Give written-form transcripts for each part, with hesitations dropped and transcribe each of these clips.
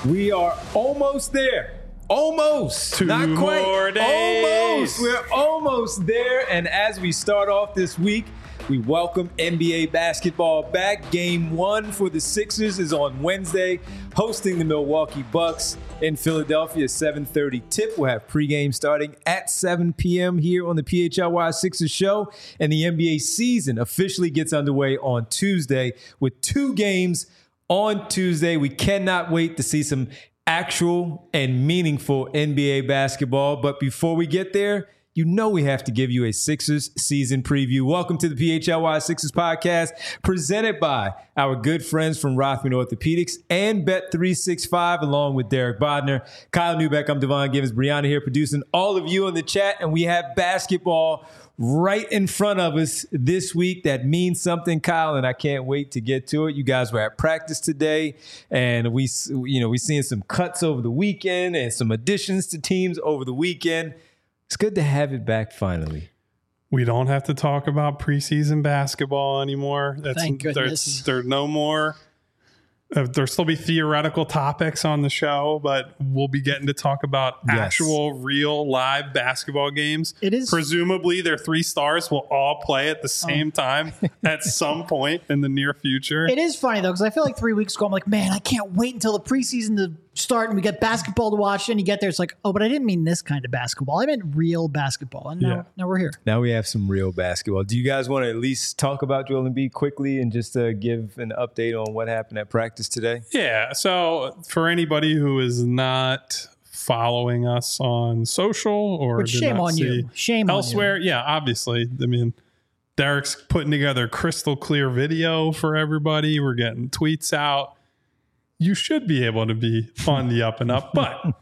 We are almost there. Almost. Two Not quite. more days. Almost. We're almost there. And as we start off this week, we welcome NBA basketball back. Game 1 for the Sixers is on Wednesday, hosting the Milwaukee Bucks in Philadelphia. 7:30 tip. We'll have pregame starting at 7 p.m. here on the PHLY Sixers show. And the NBA season officially gets underway on Tuesday with 2 games on Tuesday. We cannot wait to see some actual and meaningful NBA basketball. But before we get there, you know we have to give you a Sixers season preview. Welcome to the PHLY Sixers podcast, presented by our good friends from Rothman Orthopedics and Bet365, along with Derek Bodner, Kyle Newbeck. I'm Devon Givens, Brianna here producing all of you in the chat, and we have basketball right in front of us this week. That means something, Kyle, and I can't wait to get to it. You guys were at practice today, and we seeing some cuts over the weekend and some additions to teams over the weekend. It's good to have it back finally. We don't have to talk about preseason basketball anymore. Thank goodness. There's no more. There'll still be theoretical topics on the show, but we'll be getting to talk about actual, real, live basketball games. It is presumably their 3 stars will all play at the same time at some point in the near future. It is funny, though, because I feel like 3 weeks ago, I'm like, man, I can't wait until the preseason to start and we get basketball to watch. And you get there, it's like, oh, but I didn't mean this kind of basketball. I meant real basketball. And now we're here. Now we have some real basketball. Do you guys want to at least talk about Joel Embiid quickly and just give an update on what happened at practice today? Yeah. So for anybody who is not following us on social or Which shame on you. Shame elsewhere, on you. yeah, obviously. I mean, Derek's putting together crystal clear video for everybody. We're getting tweets out. You should be able to be on the up and up. But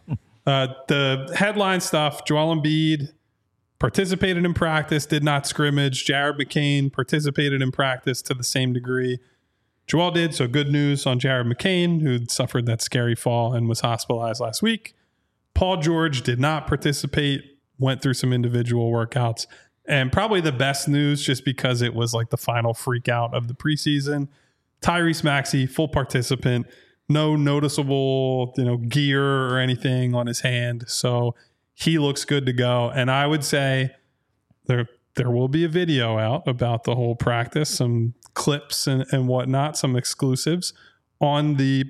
the headline stuff, Joel Embiid participated in practice, did not scrimmage. Jared McCain participated in practice to the same degree Joel did. So good news on Jared McCain, who suffered that scary fall and was hospitalized last week. Paul George did not participate, went through some individual workouts. And probably the best news, just because it was like the final freak out of the preseason, Tyrese Maxey, full participant. No noticeable, gear or anything on his hand. So he looks good to go. And I would say there will be a video out about the whole practice, some clips and whatnot, some exclusives on the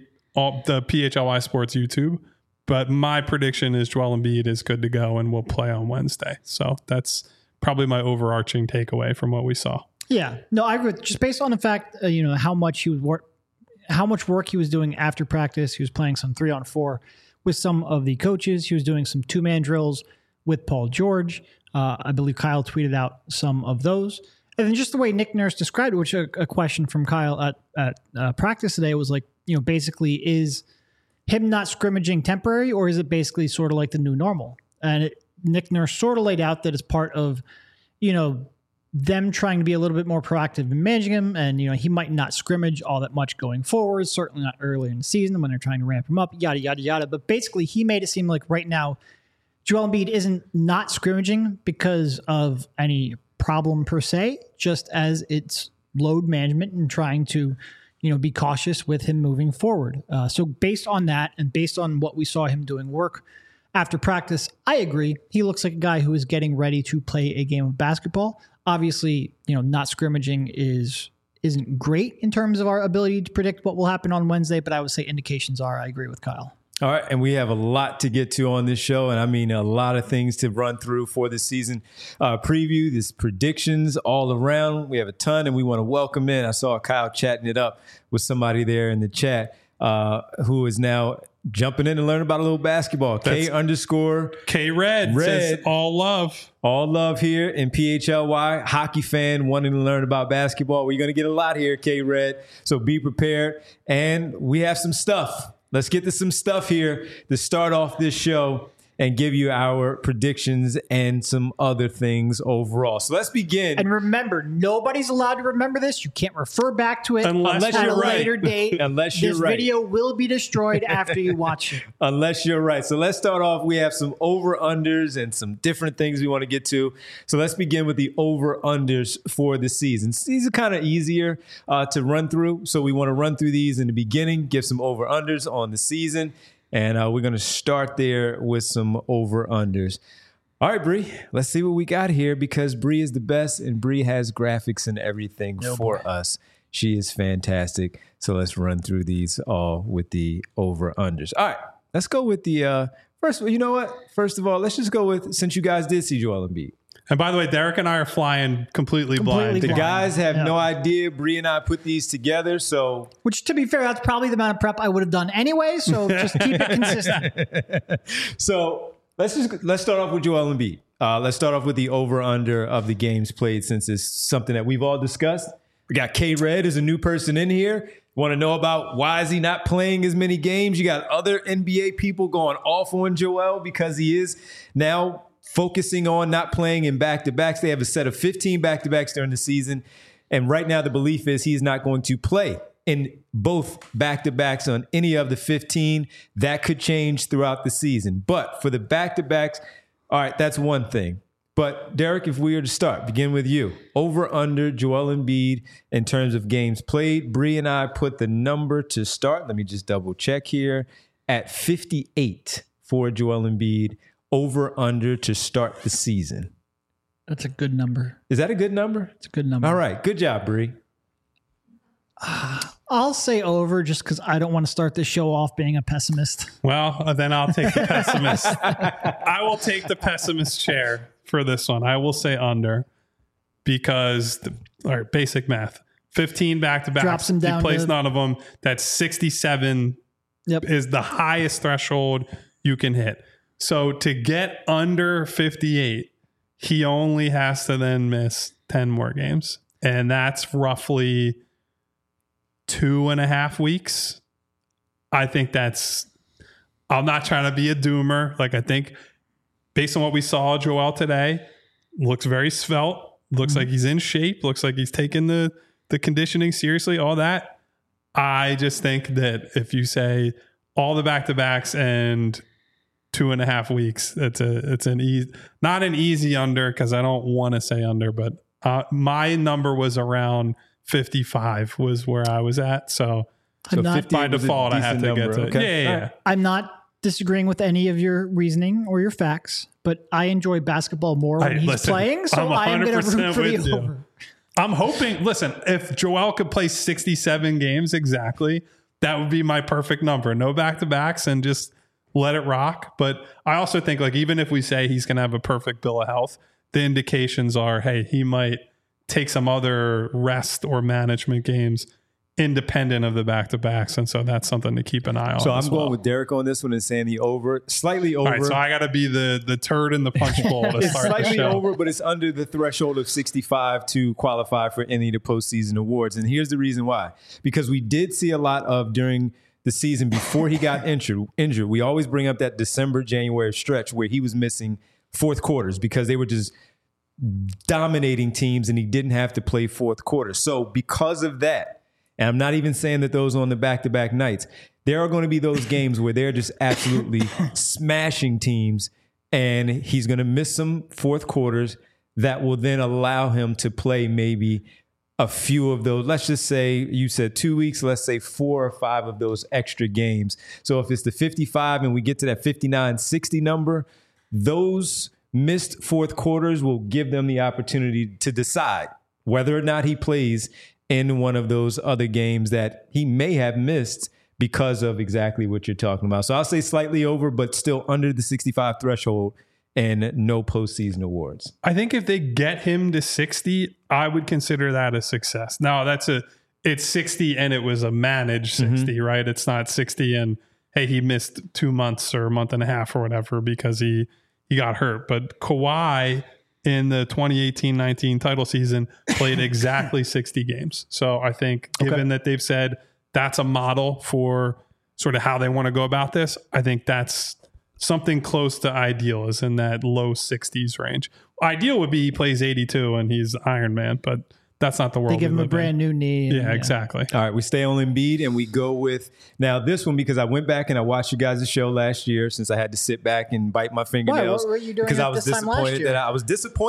PHLY Sports YouTube. But my prediction is Joel Embiid is good to go and will play on Wednesday. So that's probably my overarching takeaway from what we saw. Yeah. No, I agree. Just based on the fact, how much work he was doing after practice. He was playing some 3-on-4 with some of the coaches. He was doing some 2-man drills with Paul George. I believe Kyle tweeted out some of those. And then just the way Nick Nurse described it, which a question from Kyle at practice today was like, basically is him not scrimmaging temporary, or is it basically sort of like the new normal? And Nick Nurse sort of laid out that as part of, them trying to be a little bit more proactive in managing him. And, he might not scrimmage all that much going forward, certainly not early in the season when they're trying to ramp him up, yada, yada, yada. But basically, he made it seem like right now, Joel Embiid isn't not scrimmaging because of any problem per se, just as it's load management and trying to, be cautious with him moving forward. So based on that and based on what we saw him doing work after practice, I agree. He looks like a guy who is getting ready to play a game of basketball. Obviously, not scrimmaging isn't great in terms of our ability to predict what will happen on Wednesday, but I would say indications are. I agree with Kyle. All right, and we have a lot to get to on this show, and I mean a lot of things to run through for the season preview, this predictions all around. We have a ton, and we want to welcome in. I saw Kyle chatting it up with somebody there in the chat who is now jumping in and learning about a little basketball. K_Red says all love. All love here in PHLY. Hockey fan wanting to learn about basketball. We're going to get a lot here, K-Red. So be prepared. And we have some stuff. Let's get to some stuff here to start off this show and give you our predictions and some other things overall. So let's begin. And remember, nobody's allowed to remember this. You can't refer back to it unless at you're a later date. Unless you're this right. video will be destroyed after you watch it. Unless you're right. So let's start off. We have some over-unders and some different things we want to get to. So let's begin with the over-unders for the season. These are kind of easier to run through. So we want to run through these in the beginning, give some over-unders on the season. And we're going to start there with some over-unders. All right, Bree, let's see what we got here because Bree is the best and Bree has graphics and everything for us. She is fantastic. So let's run through these all with the over-unders. All right, let's go with the first. You know what? First of all, let's just go with, since you guys did see Joel Embiid. And by the way, Derek and I are flying completely blind. The guys have no idea. Bree and I put these together, so. Which, to be fair, that's probably the amount of prep I would have done anyway. So just keep it consistent. So let's start off with Joel Embiid. Let's start off with the over/under of the games played, since it's something that we've all discussed. We got K-Red as a new person in here. Want to know about why is he not playing as many games? You got other NBA people going off on Joel because he is now focusing on not playing in back-to-backs. They have a set of 15 back-to-backs during the season. And right now the belief is he's not going to play in both back-to-backs on any of the 15. That could change throughout the season. But for the back-to-backs, all right, that's one thing. But Derek, if we were to start, begin with you. Over under Joel Embiid in terms of games played. Bree and I put the number to start. Let me just double check here. At 58 for Joel Embiid. Over under to start the season. That's a good number. Is that a good number? It's a good number. All right. Good job, Bree. I'll say over just because I don't want to start this show off being a pessimist. Well, then I'll take the pessimist. I will take the pessimist chair for this one. I will say under because, all right, basic math. 15 back-to-backs. Drops him down. He plays none of them. That's 67 is the highest threshold you can hit. So to get under 58, he only has to then miss 10 more games. And that's roughly 2.5 weeks. I think I'm not trying to be a doomer. Like, I think based on what we saw Joel today, looks very svelte, looks like he's in shape, looks like he's taking the conditioning seriously, all that. I just think that if you say all the back-to-backs and 2.5 weeks, it's not an easy under because I don't want to say under, but my number was around 55 was where I was at. So by default, I had to get to okay. Yeah. I'm not disagreeing with any of your reasoning or your facts, but I enjoy basketball more when he's playing. So I am going to root for the over. I'm hoping, listen, if Joel could play 67 games exactly, that would be my perfect number. No back-to-backs and just let it rock. But I also think, like, even if we say he's going to have a perfect bill of health, the indications are, hey, he might take some other rest or management games independent of the back-to-backs. And so that's something to keep an eye on. So I'm going with Derek on this one and saying the over, slightly over. All right, so I got to be the turd in the punch bowl to it's start slightly the show. over, but it's under the threshold of 65 to qualify for any of the postseason awards. And here's the reason why. Because we did see a lot of during the season before he got injured. We always bring up that December, January stretch where he was missing fourth quarters because they were just dominating teams and he didn't have to play fourth quarter. So because of that, and I'm not even saying that those on the back-to-back nights, there are going to be those games where they're just absolutely smashing teams and he's going to miss some fourth quarters that will then allow him to play maybe a few of those. Let's just say you said 2 weeks, let's say 4 or 5 of those extra games. So if it's the 55 and we get to that 59-60 number, those missed fourth quarters will give them the opportunity to decide whether or not he plays in one of those other games that he may have missed because of exactly what you're talking about. So I'll say slightly over, but still under the 65 threshold and no postseason awards. I think if they get him to 60, I would consider that a success. Now it's 60 and it was a managed 60, right? It's not 60 and hey, he missed 2 months or a month and a half or whatever because he got hurt. But Kawhi in the 2018-19 title season played exactly 60 games. So I think given that they've said that's a model for sort of how they want to go about this, I think that's something close to ideal, is in that low 60s range. Ideal would be he plays 82 and he's Iron Man, but that's not the world. They give him a brand new knee. Yeah, exactly. All right, we stay on Embiid and we go with now this one because I went back and I watched you guys' show last year since I had to sit back and bite my fingernails. What were you doing because I was disappointed that I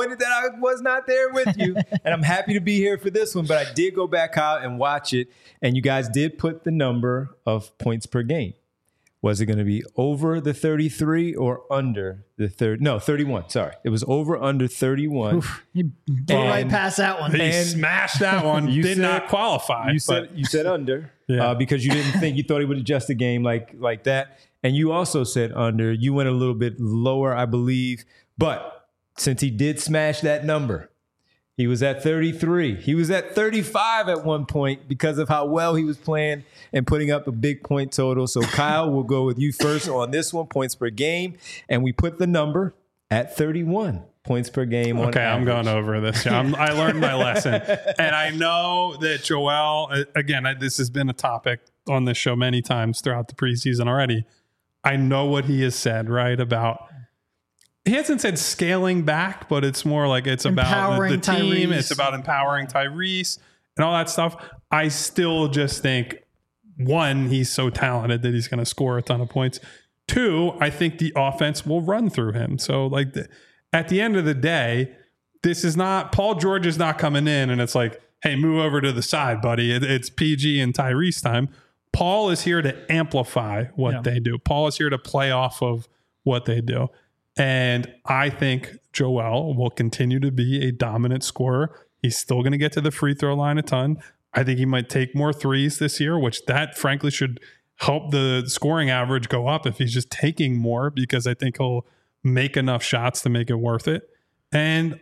was not there with you, and I'm happy to be here for this one. But I did go back out and watch it, and you guys did put the number of points per game. Was it going to be over the 33 or under the 30? No, 31. Sorry. It was over under 31. Oof, you blew right past that one. He smashed that one. Did not qualify. You said under because you didn't think, you thought he would adjust the game like that. And you also said under. You went a little bit lower, I believe. But since he did smash that number, he was at 33. He was at 35 at one point because of how well he was playing and putting up a big point total. So Kyle, we'll go with you first on this one, points per game. And we put the number at 31 points per game. Okay, I'm going over this. I learned my lesson. And I know that Joel, again, this has been a topic on this show many times throughout the preseason already. I know what he has said, right, about... He hasn't said scaling back, but it's more like it's about the team. Tyrese. It's about empowering Tyrese and all that stuff. I still just think, one, he's so talented that he's going to score a ton of points. Two, I think the offense will run through him. So, like, at the end of the day, this is not, Paul George is not coming in and it's like, hey, move over to the side, buddy. It's PG and Tyrese time. Paul is here to amplify what they do. Paul is here to play off of what they do. And I think Joel will continue to be a dominant scorer. He's still going to get to the free throw line a ton. I think he might take more threes this year, which that frankly should help the scoring average go up if he's just taking more, because I think he'll make enough shots to make it worth it. And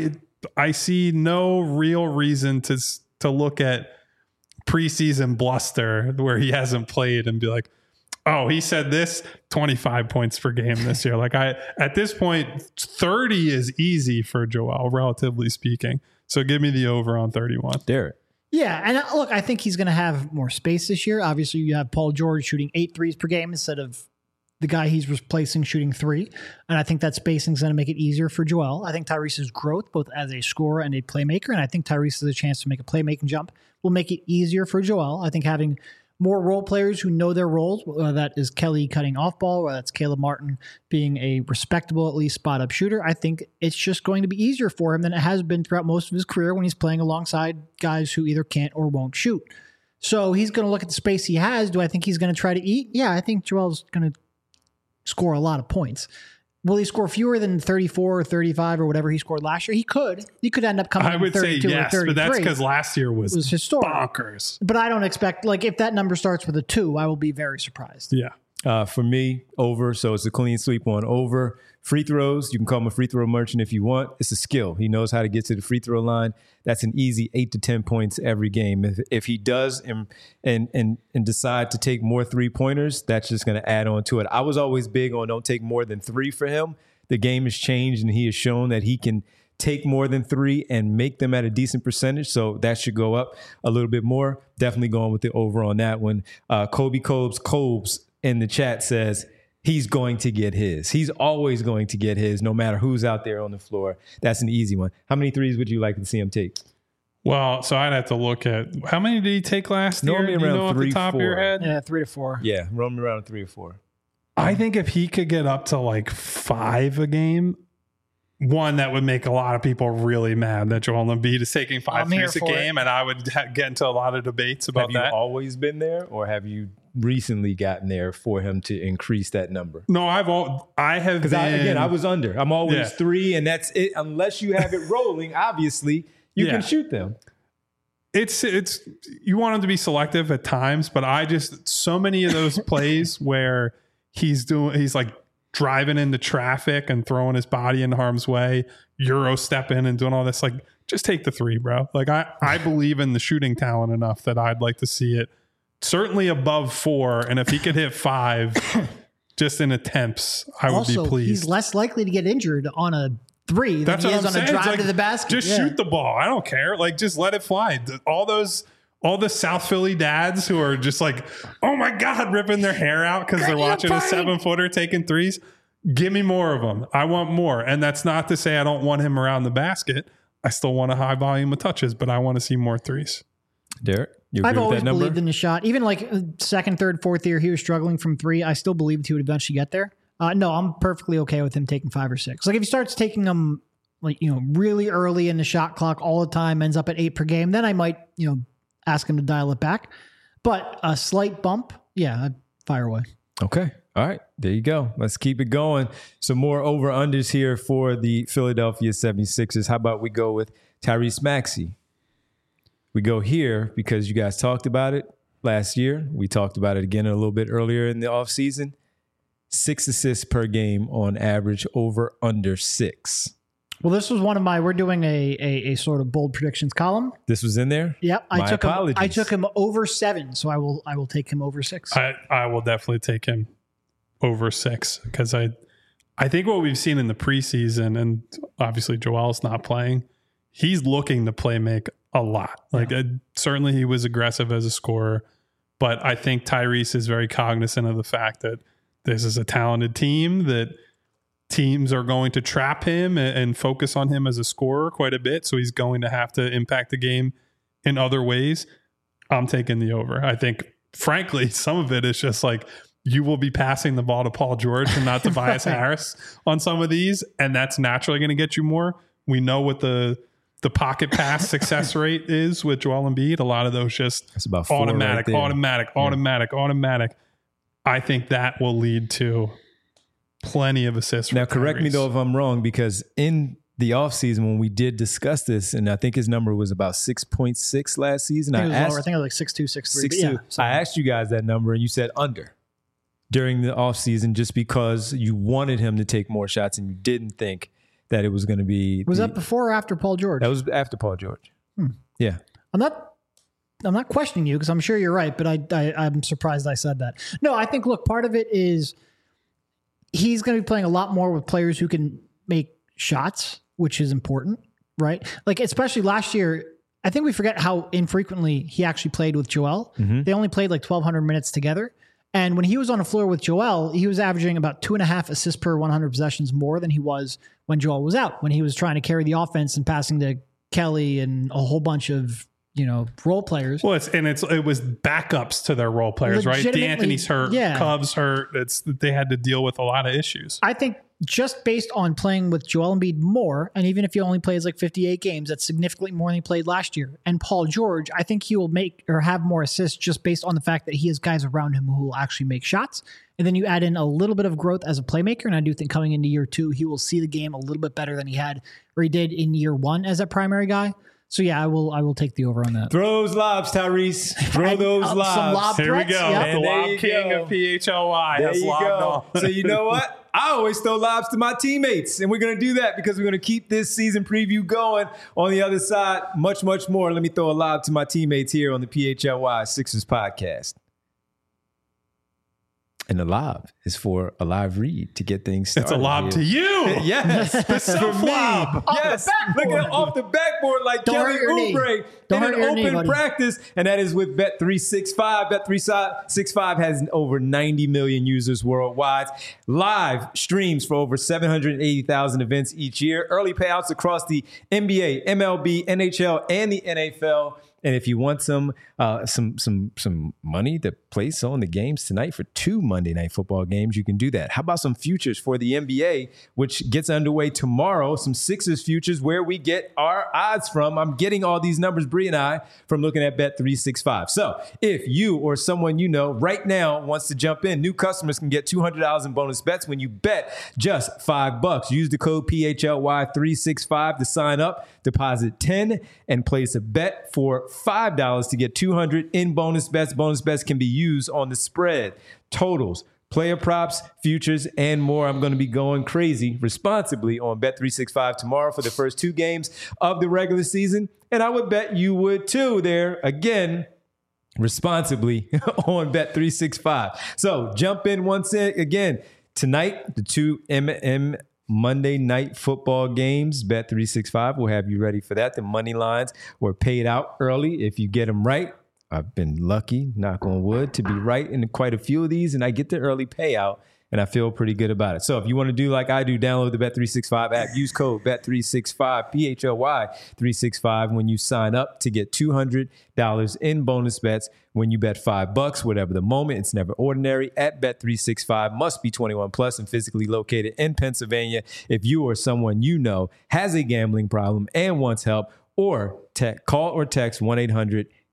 I see no real reason to look at preseason bluster where he hasn't played and be like, oh, he said this 25 points per game this year. Like at this point, 30 is easy for Joel, relatively speaking. So give me the over on 31. Derek. Yeah, and look, I think he's going to have more space this year. Obviously, you have Paul George shooting 8 threes per game instead of the guy he's replacing shooting 3. And I think that spacing is going to make it easier for Joel. I think Tyrese's growth, both as a scorer and a playmaker, and I think Tyrese has a chance to make a playmaking jump, will make it easier for Joel. I think having more role players who know their roles, whether that is Kelly cutting off ball, whether that's Caleb Martin being a respectable, at least spot-up shooter, I think it's just going to be easier for him than it has been throughout most of his career when he's playing alongside guys who either can't or won't shoot. So he's going to look at the space he has. Do I think he's going to try to eat? Yeah, I think Joel's going to score a lot of points. Will he score fewer than 34 or 35 or whatever he scored last year? He could. He could end up coming in 32 or 33. But that's because last year was historic. Bonkers. But I don't expect, like, if that number starts with a 2, I will be very surprised. Yeah. For me, over. So it's a clean sweep on over. Free throws, you can call him a free throw merchant if you want. It's a skill. He knows how to get to the free throw line. That's an easy 8 to 10 points every game. If he does and decide to take more 3-pointers, that's just going to add on to it. I was always big on don't take more than 3 for him. The game has changed, and he has shown that he can take more than 3 and make them at a decent percentage. So that should go up a little bit more. Definitely going with the over on that one. Kobe Cobes in the chat says he's going to get his. He's always going to get his, no matter who's out there on the floor. That's an easy one. How many threes would you like to see him take? Well, so I'd have to look at how many did he take last year? Normally around 3, off the top 4. of your head? Yeah, 3 to 4. Yeah, roaming around 3 or 4. I think if he could get up to like 5 a game, one, that would make a lot of people really mad that Joel Embiid is taking 5 threes a game, and I would get into a lot of debates about that. Have you always been there, or have you recently gotten there for him to increase that number? No, I have because I was under. I'm always 3, and that's it. Unless you have it rolling, obviously you can shoot them. It's you want him to be selective at times, but I just so many of those plays where he's like driving into traffic and throwing his body in harm's way, Euro stepping and doing all this, like just take the 3, bro. Like I believe in the shooting talent enough that I'd like to see it certainly above 4, and if he could hit 5 just in attempts, I would be pleased. He's less likely to get injured on a 3 than he is on a drive to the basket. Just shoot the ball. I don't care. Like just let it fly. All the South Philly dads who are just like, oh my God, ripping their hair out because they're watching a 7-footer taking 3s. Give me more of them. I want more. And that's not to say I don't want him around the basket. I still want a high volume of touches, but I want to see more 3s. Derek, you agree I've with always that number? believed in the shot. Even like second, third, fourth year, he was struggling from 3. I still believed he would eventually get there. No, I'm perfectly okay with him taking 5 or 6. Like if he starts taking them like, really early in the shot clock all the time, ends up at 8 per game, then I might, ask him to dial it back. But a slight bump, I'd fire away. Okay. All right. There you go. Let's keep it going. Some more over-unders here for the Philadelphia 76ers. How about we go with Tyrese Maxey? We go here because you guys talked about it last year. We talked about it again a little bit earlier in the offseason. 6 assists per game on average, over under 6. Well, this was one of my. We're doing a sort of bold predictions column. This was in there. Yep, I took him over 7, so I will take him over 6. I will definitely take him over 6 because I think what we've seen in the preseason, and obviously Joel's not playing, he's looking to play make a lot. Like certainly he was aggressive as a scorer, but I think Tyrese is very cognizant of the fact that this is a talented team, that teams are going to trap him and focus on him as a scorer quite a bit. So he's going to have to impact the game in other ways. I'm taking the over. I think, frankly, some of it is just like you will be passing the ball to Paul George and not Tobias Harris on some of these, and that's naturally going to get you more. We know what the pocket pass success rate is with Joel Embiid. A lot of those just that's about 4 automatic. Right. I think that will lead to plenty of assists. Now, correct me though if I'm wrong, because in the offseason when we did discuss this, and I think his number was about 6.6 last season. I think it was like 6'2", 6'3". 6'2". Yeah, I asked you guys that number and you said under during the offseason just because you wanted him to take more shots and you didn't think that it was going to be. Was that before or after Paul George? That was after Paul George. Yeah. I'm not questioning you because I'm sure you're right, but I'm surprised I said that. No, I think, look, part of it is he's going to be playing a lot more with players who can make shots, which is important, right? Like, especially last year, I think we forget how infrequently he actually played with Joel. Mm-hmm. They only played like 1,200 minutes together. And when he was on the floor with Joel, he was averaging about 2.5 assists per 100 possessions more than he was when Joel was out, when he was trying to carry the offense and passing to Kelly and a whole bunch of, role players. Well, it was backups to their role players, right? D'Antoni's hurt, Cubs hurt. They had to deal with a lot of issues. I think just based on playing with Joel Embiid more, and even if he only plays like 58 games, that's significantly more than he played last year. And Paul George, I think he will make or have more assists just based on the fact that he has guys around him who will actually make shots. And then you add in a little bit of growth as a playmaker, and I do think coming into year 2, he will see the game a little bit better than he did in year 1 as a primary guy. So yeah, I will take the over on that. Throw those lobs, Tyrese. Throw those lobs. Some lob Here threats, we go. Yep. The lob king of PHLY has lobbed on. So you know what? I always throw lobs to my teammates, and we're going to do that because we're going to keep this season preview going. On the other side, much, much more. Let me throw a lob to my teammates here on the PHLY Sixers podcast. And the lob is for a live read to get things started. It's a lob to you. Yes. For me. Yes. Look at it off the backboard like Kelly Oubre in an open practice. And that is with Bet365. Bet365 has over 90 million users worldwide. Live streams for over 780,000 events each year. Early payouts across the NBA, MLB, NHL, and the NFL. And if you want some money to place on the games tonight for 2 Monday Night Football games, you can do that. How about some futures for the NBA, which gets underway tomorrow? Some Sixers futures where we get our odds from. I'm getting all these numbers, Bree and I, from looking at Bet365. So if you or someone you know right now wants to jump in, new customers can get $200 in bonus bets when you bet just $5. Use the code PHLY365 to sign up. Deposit 10 and place a bet for $5 to get 200 in bonus bets. Bonus bets can be used on the spread, totals, player props, futures, and more. I'm going to be going crazy responsibly on Bet365 tomorrow for the first 2 games of the regular season. And I would bet you would too there again responsibly on Bet365. So jump in once again. Tonight, the 2 Monday Night Football games. Bet365 will have you ready for that. The money lines were paid out early if you get them right. I've been lucky, knock on wood, to be right in quite a few of these, and I get the early payout, and I feel pretty good about it. So if you want to do like I do, download the Bet365 app. Use code Bet365, PHLY365 when you sign up to get $200 in bonus bets when you bet $5, whatever the moment. It's never ordinary. At Bet365, must be 21 plus and physically located in Pennsylvania. If you or someone you know has a gambling problem and wants help, or call or text 1-800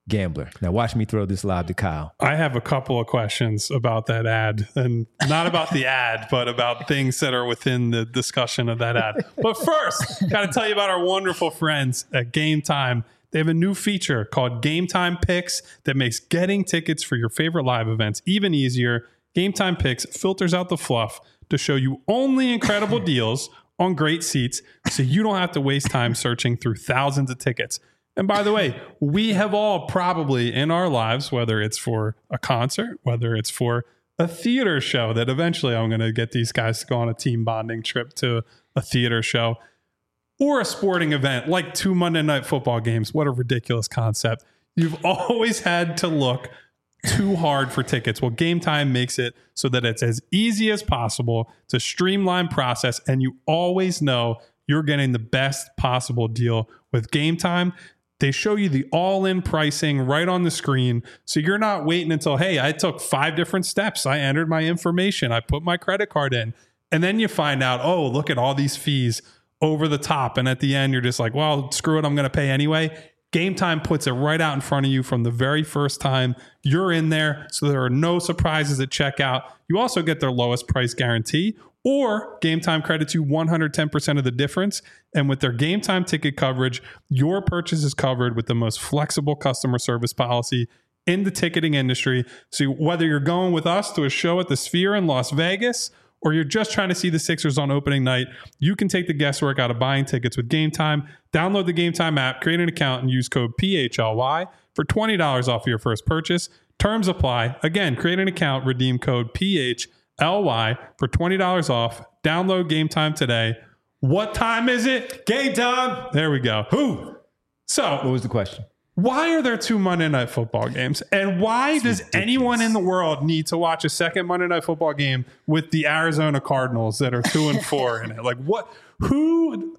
gambler. Now watch me throw this lob to Kyle. I have a couple of questions about that ad, and not about the ad, but about things that are within the discussion of that ad. But first, got to tell you about our wonderful friends at Game Time. They have a new feature called Game Time Picks that makes getting tickets for your favorite live events even easier. Game Time Picks filters out the fluff to show you only incredible deals on great seats, so you don't have to waste time searching through thousands of tickets. And by the way, we have all probably in our lives, whether it's for a concert, whether it's for a theater show, that eventually I'm going to get these guys to go on a team bonding trip to a theater show, or a sporting event like 2 Monday Night Football games. What a ridiculous concept. You've always had to look too hard for tickets. Well, Game Time makes it so that it's as easy as possible. It's a streamlined process, and you always know you're getting the best possible deal with Game Time. They show you the all-in pricing right on the screen, so you're not waiting until, hey, I took 5 different steps. I entered my information. I put my credit card in. And then you find out, oh, look at all these fees over the top. And at the end, you're just like, well, screw it. I'm going to pay anyway. Game Time puts it right out in front of you from the very first time you're in there, so there are no surprises at checkout. You also get their lowest price guarantee, or Game Time credits you 110% of the difference. And with their Game Time ticket coverage, your purchase is covered with the most flexible customer service policy in the ticketing industry. So whether you're going with us to a show at the Sphere in Las Vegas, or you're just trying to see the Sixers on opening night, you can take the guesswork out of buying tickets with Game Time. Download the Game Time app, create an account, and use code PHLY for $20 off your first purchase. Terms apply. Again, create an account, redeem code PHLY for $20 off. Download Game Time today. What time is it? Game time. There we go. Who? So, What was the question? why are there 2 Monday Night Football games? And why does anyone in the world need to watch a second Monday Night Football game with the Arizona Cardinals that are 2-4 in it? Like, what? Who?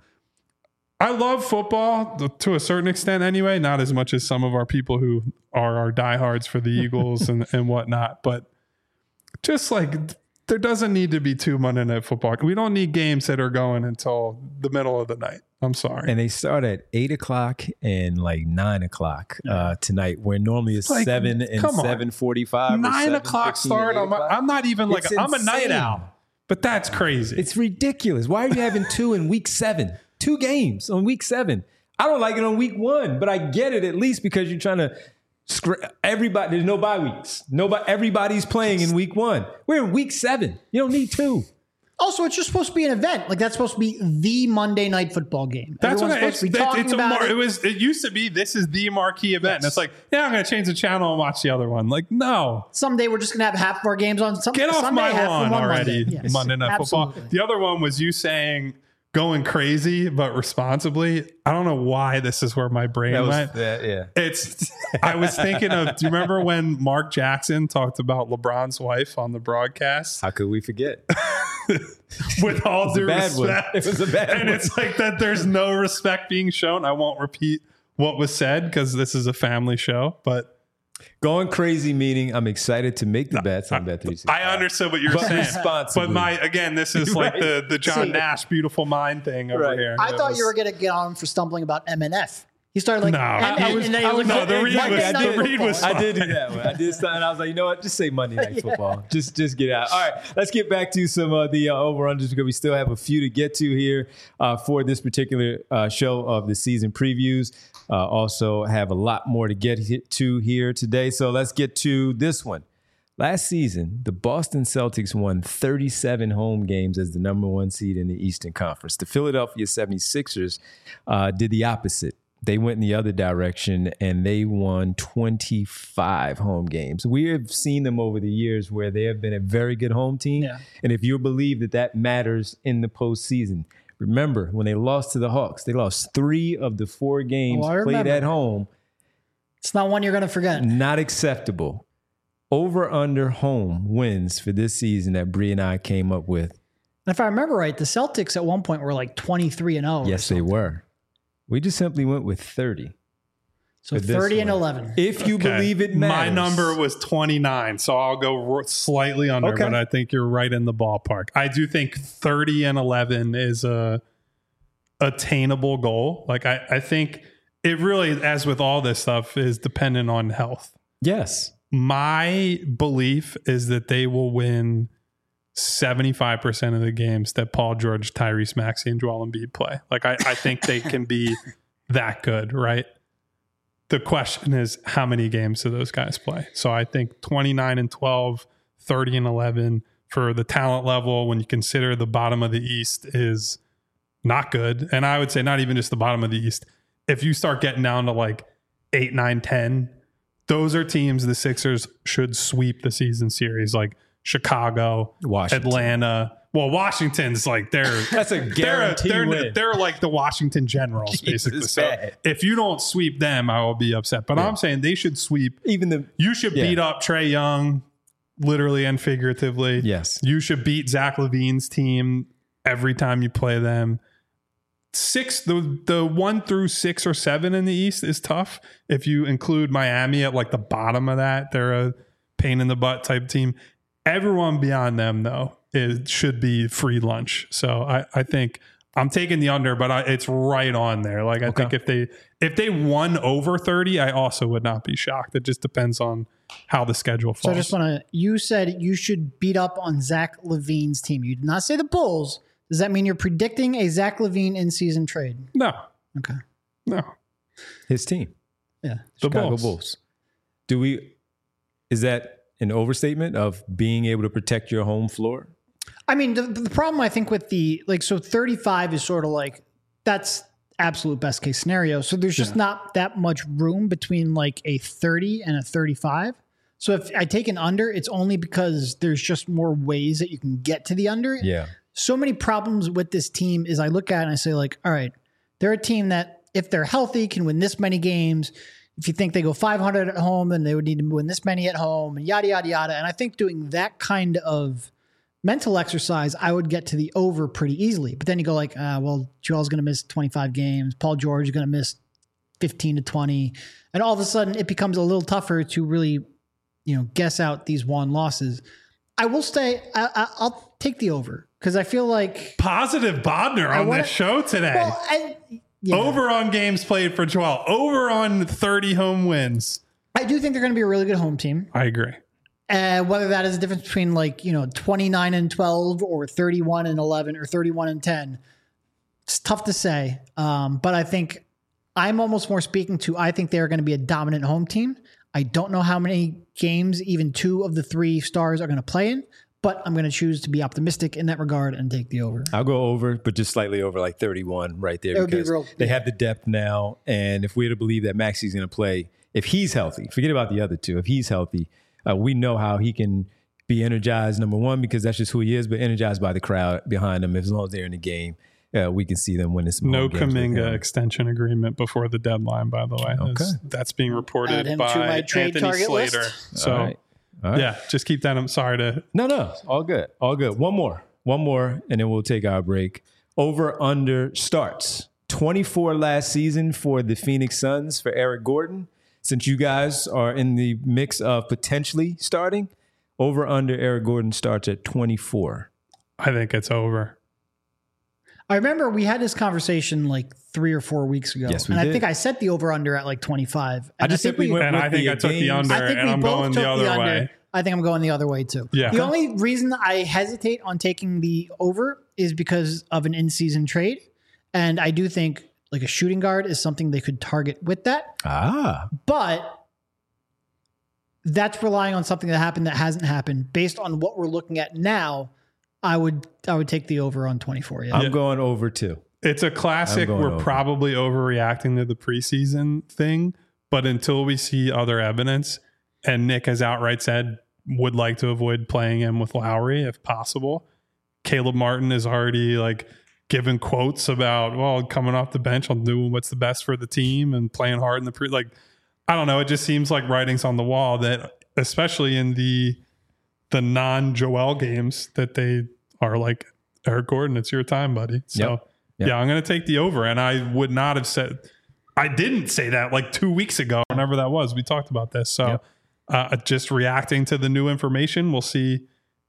I love football to a certain extent anyway, not as much as some of our people who are our diehards for the Eagles and whatnot. But just like, there doesn't need to be 2 Monday Night Football. We don't need games that are going until the middle of the night. I'm sorry. And they start at 8 o'clock and like 9 o'clock tonight, where normally it's Like, 7 and 7:45. 9 o'clock start. I'm not even like, It's I'm a night insane. owl, but that's crazy. It's ridiculous. Why are you having 2 in week 7? 2 games on week 7. I don't like it on week 1, but I get it at least because you're trying to everybody. There's no bye weeks. Everybody's playing in week 1. We're in week 7. You don't need 2. Also, it's just supposed to be an event. Like, that's supposed to be the Monday Night Football game. That's what Everyone's supposed to be talking about it. It used to be, this is the marquee event. And it's like, yeah, I'm going to change the channel and watch the other one. Like, no. Someday we're just going to have half of our games on Get off Sunday, my half lawn on one already, Monday. Yes, Monday Night absolutely. Football. The other one was you saying going crazy, but responsibly. I don't know why this is where my brain went. Yeah. I was thinking of, do you remember when Mark Jackson talked about LeBron's wife on the broadcast? How could we forget? With all due respect. It was a bad And one. it's like that there's no respect being shown. I won't repeat what was said because this is a family show, but Going crazy meaning I'm excited to make the bets on Bet365. I understood what you're But saying. responsibly. But this is like Right. the John See, Nash beautiful mind thing over Right. here. I thought you were going to get on him for stumbling about MNF. He started like, No. The read was I did do that one. I did something. I was like, you know what? Just say Monday Night Football. Just get out. All right, let's get back to some of the over-unders because we still have a few to get to here for this particular show of the season previews. Also have a lot more to get to here today. So let's get to this one. Last season, the Boston Celtics won 37 home games as the number 1 seed in the Eastern Conference. The Philadelphia 76ers did the opposite. They went in the other direction and they won 25 home games. We have seen them over the years where they have been a very good home team. Yeah. And if you believe that matters in the postseason, remember when they lost to the Hawks, they lost 3 of the 4 games I played remember. at home. It's not one you're going to forget. Not acceptable. Over under home wins for this season that Bree and I came up with. And if I remember right, the Celtics at one point were like 23-0. Yes, they were. We just simply went with 30. So for this 30 and one. 11. If you Okay. believe it matters. My number was 29, so I'll go slightly under, Okay. but I think you're right in the ballpark. I do think 30 and 11 is a attainable goal. Like I think it really, as with all this stuff, is dependent on health. Yes. My belief is that they will win 75% of the games that Paul George, Tyrese Maxey, and Joel Embiid play. Like, I think they can be that good, right? The question is, how many games do those guys play? So I think 29-12, 30-11 for the talent level, when you consider the bottom of the East, is not good. And I would say not even just the bottom of the East. If you start getting down to like 8, 9, 10, those are teams the Sixers should sweep the season series, like Chicago, Washington. Atlanta. Well, Washington's like that's a guarantee win. They're like the Washington Generals, basically. So if you don't sweep them, I will be upset. But I'm saying they should sweep. You should beat up Trae Young, literally and figuratively. Yes. You should beat Zach LaVine's team every time you play them. The 1 through 6 or 7 in the East is tough. If you include Miami at like the bottom of that, they're a pain in the butt type team. Everyone beyond them, though, should be free lunch. So I think I'm taking the under, but it's right on there. Like I think if they won over 30, I also would not be shocked. It just depends on how the schedule falls. So I just want to, you said you should beat up on Zach LaVine's team. You did not say the Bulls. Does that mean you're predicting a Zach LaVine in-season trade? No. Okay. No. His team. Yeah. The Chicago Bulls. Is that an overstatement of being able to protect your home floor? I mean, the problem I think with so 35 is sort of like, that's absolute best case scenario. So there's just not that much room between like a 30 and a 35. So if I take an under, it's only because there's just more ways that you can get to the under. Yeah. So many problems with this team is I look at it and I say like, all right, they're a team that if they're healthy can win this many games. If you think they go 500 at home, then they would need to win this many at home and yada, yada, yada. And I think doing that kind of mental exercise, I would get to the over pretty easily. But then you go like, well, Joel's going to miss 25 games. Paul George is going to miss 15 to 20. And all of a sudden it becomes a little tougher to really, guess out these won losses. I will say I'll take the over because I feel like positive Bodner on this show today. Well, over on games played for Joel, over on 30 home wins. I do think they're going to be a really good home team. I agree. Whether that is a difference between 29-12 or 31-11 or 31-10, it's tough to say. But I think I'm almost more speaking to, I think they're going to be a dominant home team. I don't know how many games even 2 of the 3 stars are going to play in, but I'm going to choose to be optimistic in that regard and take the over. I'll go over, but just slightly over, like 31 right there, because they have the depth now. And if we're to believe that Maxey's going to play, if he's healthy, forget about the other 2. If he's healthy, we know how he can be energized, number one, because that's just who he is, but energized by the crowd behind him. As long as they're in the game, we can see them win this. No Kuminga extension agreement before the deadline, by the way. Okay. That's being reported by Anthony Slater. List. So, all right. Yeah, just keep that. I'm sorry to. No, all good. All good. One more, and then we'll take our break. Over under starts 24 last season for the Phoenix Suns for Eric Gordon. Since you guys are in the mix of potentially starting, over under Eric Gordon starts at 24. I think it's over. I remember we had this conversation like 3 or 4 weeks ago. Yes, we did. I think I set the over under at like 25. I just simply went with I think I took the under, and I'm going the other way. I think I'm going the other way too. Yeah. The only reason I hesitate on taking the over is because of an in-season trade. And I do think like a shooting guard is something they could target with that. But that's relying on something that happened that hasn't happened. Based on what we're looking at now, I would take the over on 24. Yeah. I'm going over too. It's a classic. We're probably overreacting to the preseason thing, but until we see other evidence, and Nick has outright said would like to avoid playing him with Lowry if possible. Caleb Martin is already like giving quotes about, well, coming off the bench, I'll do what's the best for the team and playing hard in the I don't know. It just seems like writing's on the wall that, especially in the non-Joel games, that they are like, Eric Gordon, it's your time, buddy. So yeah, I'm going to take the over. And I would not have said, I didn't say that like 2 weeks ago, whenever that was. We talked about this. So just reacting to the new information, we'll see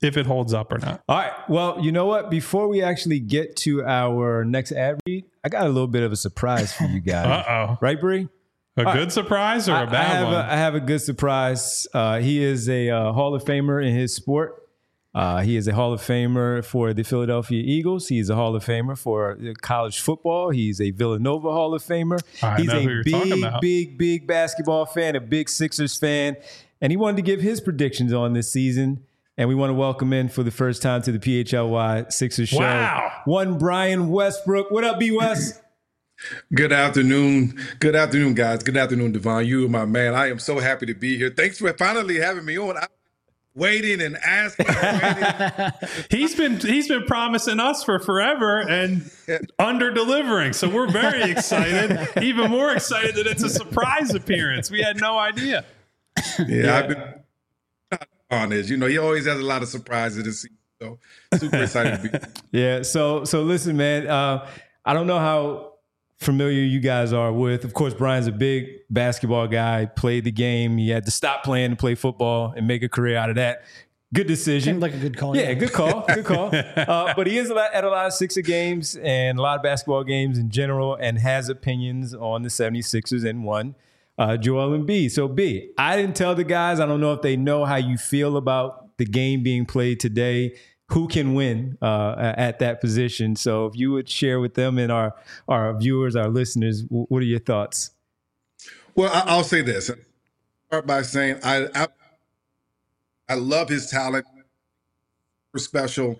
if it holds up or not. All right. Well, you know what? Before we actually get to our next ad read, I got a little bit of a surprise for you guys. Uh-oh. Right, Bree? A good surprise or a bad one? I have a good surprise. He is a Hall of Famer in his sport. He is a Hall of Famer for the Philadelphia Eagles. He's a Hall of Famer for college football. He's a Villanova Hall of Famer. He's a big basketball fan, a big Sixers fan. And he wanted to give his predictions on this season. And we want to welcome in for the first time to the PHLY Sixers show. Wow. One Brian Westbrook. What up, B. West? Good afternoon. Good afternoon, guys. Good afternoon, Devon. You are my man. I am so happy to be here. Thanks for finally having me on. I'm waiting and asking. He's been promising us for forever and under delivering. So we're very excited. Even more excited that it's a surprise appearance. We had no idea. Yeah. I've been on this. You know, he always has a lot of surprises this season. So super excited to be here. Yeah. So listen, man. I don't know how familiar you guys are with. Of course, Brian's a big basketball guy, played the game. He had to stop playing to play football and make a career out of that. Good decision. Seemed like a good call. Yeah, good call. Good call. But he is at a lot of Sixer games and a lot of basketball games in general and has opinions on the 76ers and one, Joel Embiid. So, B, I didn't tell the guys. I don't know if they know how you feel about the game being played today. Who can win at that position? So if you would share with them and our viewers, our listeners, what are your thoughts? Well, I'll say this. I'll start by saying I love his talent. Special.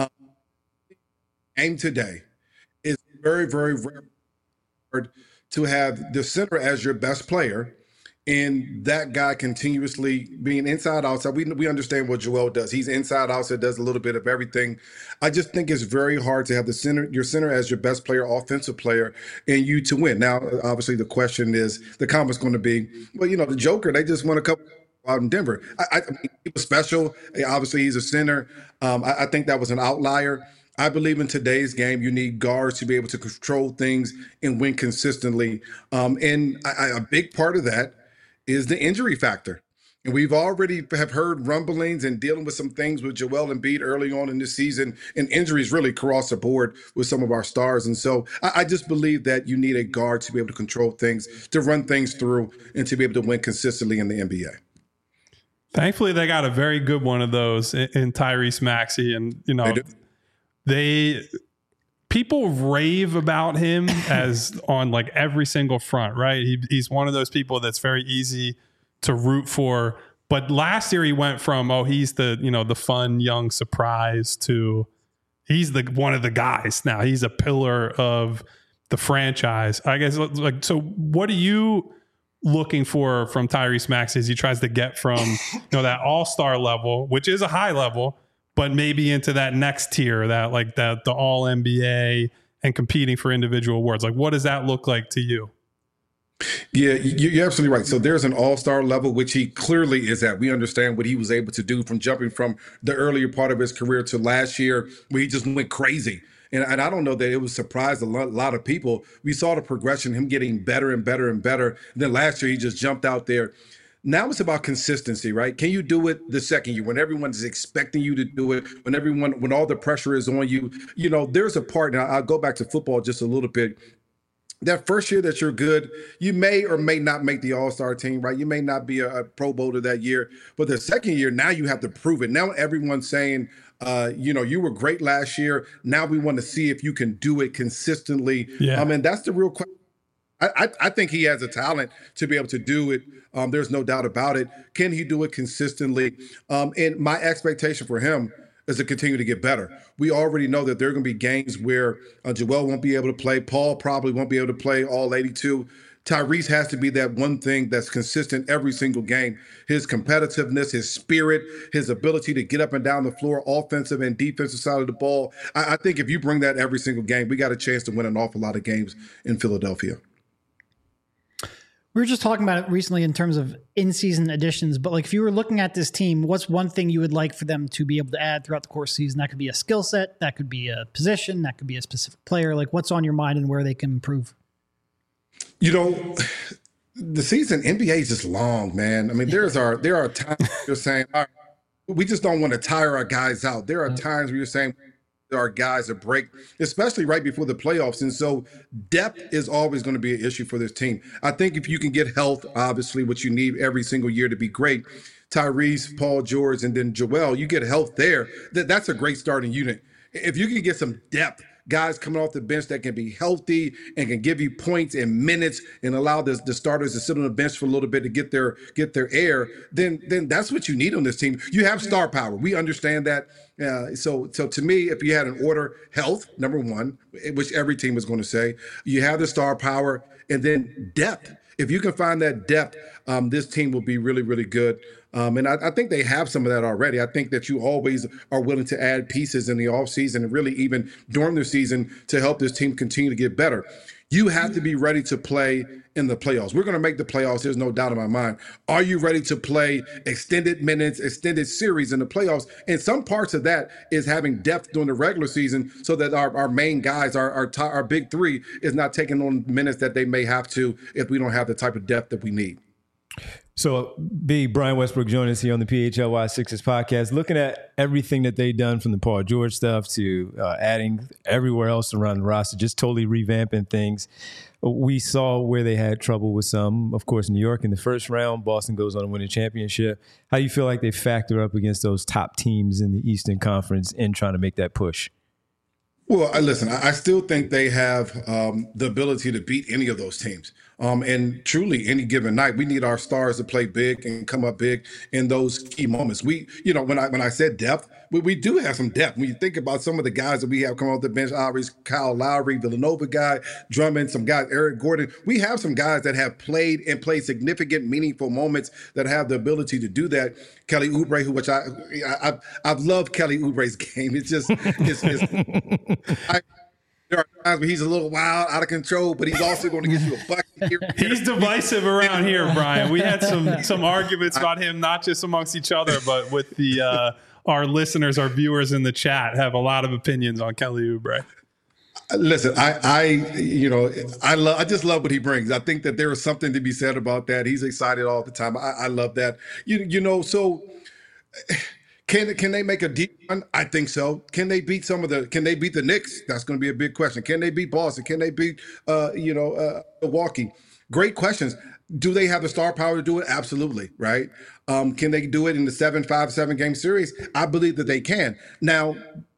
Game today is very, very rare to have the center as your best player. And that guy continuously being inside, outside. We understand what Joel does. He's inside, outside, does a little bit of everything. I just think it's very hard to have your center as your best player, offensive player, and you to win. Now, obviously, the question is, the comment's going to be, well, you know, the Joker, they just won a couple out in Denver. I mean, he was special. Obviously, he's a center. I think that was an outlier. I believe in today's game, you need guards to be able to control things and win consistently. And a big part of that is the injury factor. And we've already have heard rumblings and dealing with some things with Joel Embiid early on in this season, and injuries really across the board with some of our stars. And so I just believe that you need a guard to be able to control things, to run things through, and to be able to win consistently in the NBA. Thankfully, they got a very good one of those in Tyrese Maxey. And, you know, people rave about him as on like every single front, right? He's one of those people that's very easy to root for. But last year he went from, he's the, you know, the fun young surprise to he's the one of the guys now. He's a pillar of the franchise. I guess, like, so what are you looking for from Tyrese Maxey as he tries to get from, you know, that all-star level, which is a high level, but maybe into that next tier, that like that the all NBA and competing for individual awards? Like, what does that look like to you? Yeah, you're absolutely right. So there's an all-star level, which he clearly is at. We understand what he was able to do from jumping from the earlier part of his career to last year, where he just went crazy. And I don't know that it was surprised a lot of people. We saw the progression, him getting better and better and better. And then last year, he just jumped out there. Now it's about consistency, right? Can you do it the second year when everyone's expecting you to do it, when all the pressure is on you? You know, there's a part, now I'll go back to football just a little bit. That first year that you're good, you may or may not make the all-star team, right? You may not be a Pro Bowler that year. But the second year, now you have to prove it. Now everyone's saying, you know, you were great last year. Now we want to see if you can do it consistently. Yeah. I mean, that's the real question. I think he has a talent to be able to do it. There's no doubt about it. Can he do it consistently? And my expectation for him is to continue to get better. We already know that there are going to be games where Joel won't be able to play. Paul probably won't be able to play all 82. Tyrese has to be that one thing that's consistent every single game. His competitiveness, his spirit, his ability to get up and down the floor, offensive and defensive side of the ball. I think if you bring that every single game, we got a chance to win an awful lot of games in Philadelphia. We were just talking about it recently in terms of in-season additions, but like if you were looking at this team, what's one thing you would like for them to be able to add throughout the course of the season? That could be a skill set, that could be a position, that could be a specific player. Like what's on your mind and where they can improve? You know, the season NBA is just long, man. I mean, there are times you're saying, all right, we just don't want to tire our guys out. There are times where you're saying there are guys that break, especially right before the playoffs. And so depth is always going to be an issue for this team. I think if you can get health, obviously, what you need every single year to be great, Tyrese, Paul George, and then Joel, you get health there. That's a great starting unit. If you can get some depth, guys coming off the bench that can be healthy and can give you points and minutes and allow the starters to sit on the bench for a little bit to get their air, then that's what you need on this team. You have star power. We understand that. So to me, if you had an order, health, number one, which every team is going to say, you have the star power, and then depth. If you can find that depth, this team will be really, really good. And I think they have some of that already. I think that you always are willing to add pieces in the offseason and really even during the season to help this team continue to get better. You have to be ready to play in the playoffs. We're going to make the playoffs. There's no doubt in my mind. Are you ready to play extended minutes, extended series in the playoffs? And some parts of that is having depth during the regular season so that our main guys, our big three, is not taking on minutes that they may have to if we don't have the type of depth that we need. So, big Brian Westbrook joining us here on the PHLY Sixers podcast, looking at everything that they've done from the Paul George stuff to adding everywhere else around the roster, just totally revamping things. We saw where they had trouble with some, of course, New York in the first round. Boston goes on to win a championship. How do you feel like they factor up against those top teams in the Eastern Conference in trying to make that push? Well, listen, I still think they have the ability to beat any of those teams. And truly, any given night, we need our stars to play big and come up big in those key moments. When I said depth, we do have some depth. When you think about some of the guys that we have come off the bench, Kyle Lowry, Villanova guy, Drummond, some guys, Eric Gordon, we have some guys that have played significant, meaningful moments that have the ability to do that. Kelly Oubre, which I've loved Kelly Oubre's game. It's just, there are times where he's a little wild, out of control, but he's also going to get you a bucket here. He's divisive around here, Brian. We had some arguments about him, not just amongst each other, but with the our listeners, our viewers in the chat have a lot of opinions on Kelly Oubre. Listen, I just love what he brings. I think that there is something to be said about that. He's excited all the time. I love that. So. Can they make a deep run? I think so. Can they beat can they beat the Knicks? That's going to be a big question. Can they beat Boston? Can they beat Milwaukee? Great questions. Do they have the star power to do it? Absolutely, right? Can they do it in the 7 game series? I believe that they can. Now,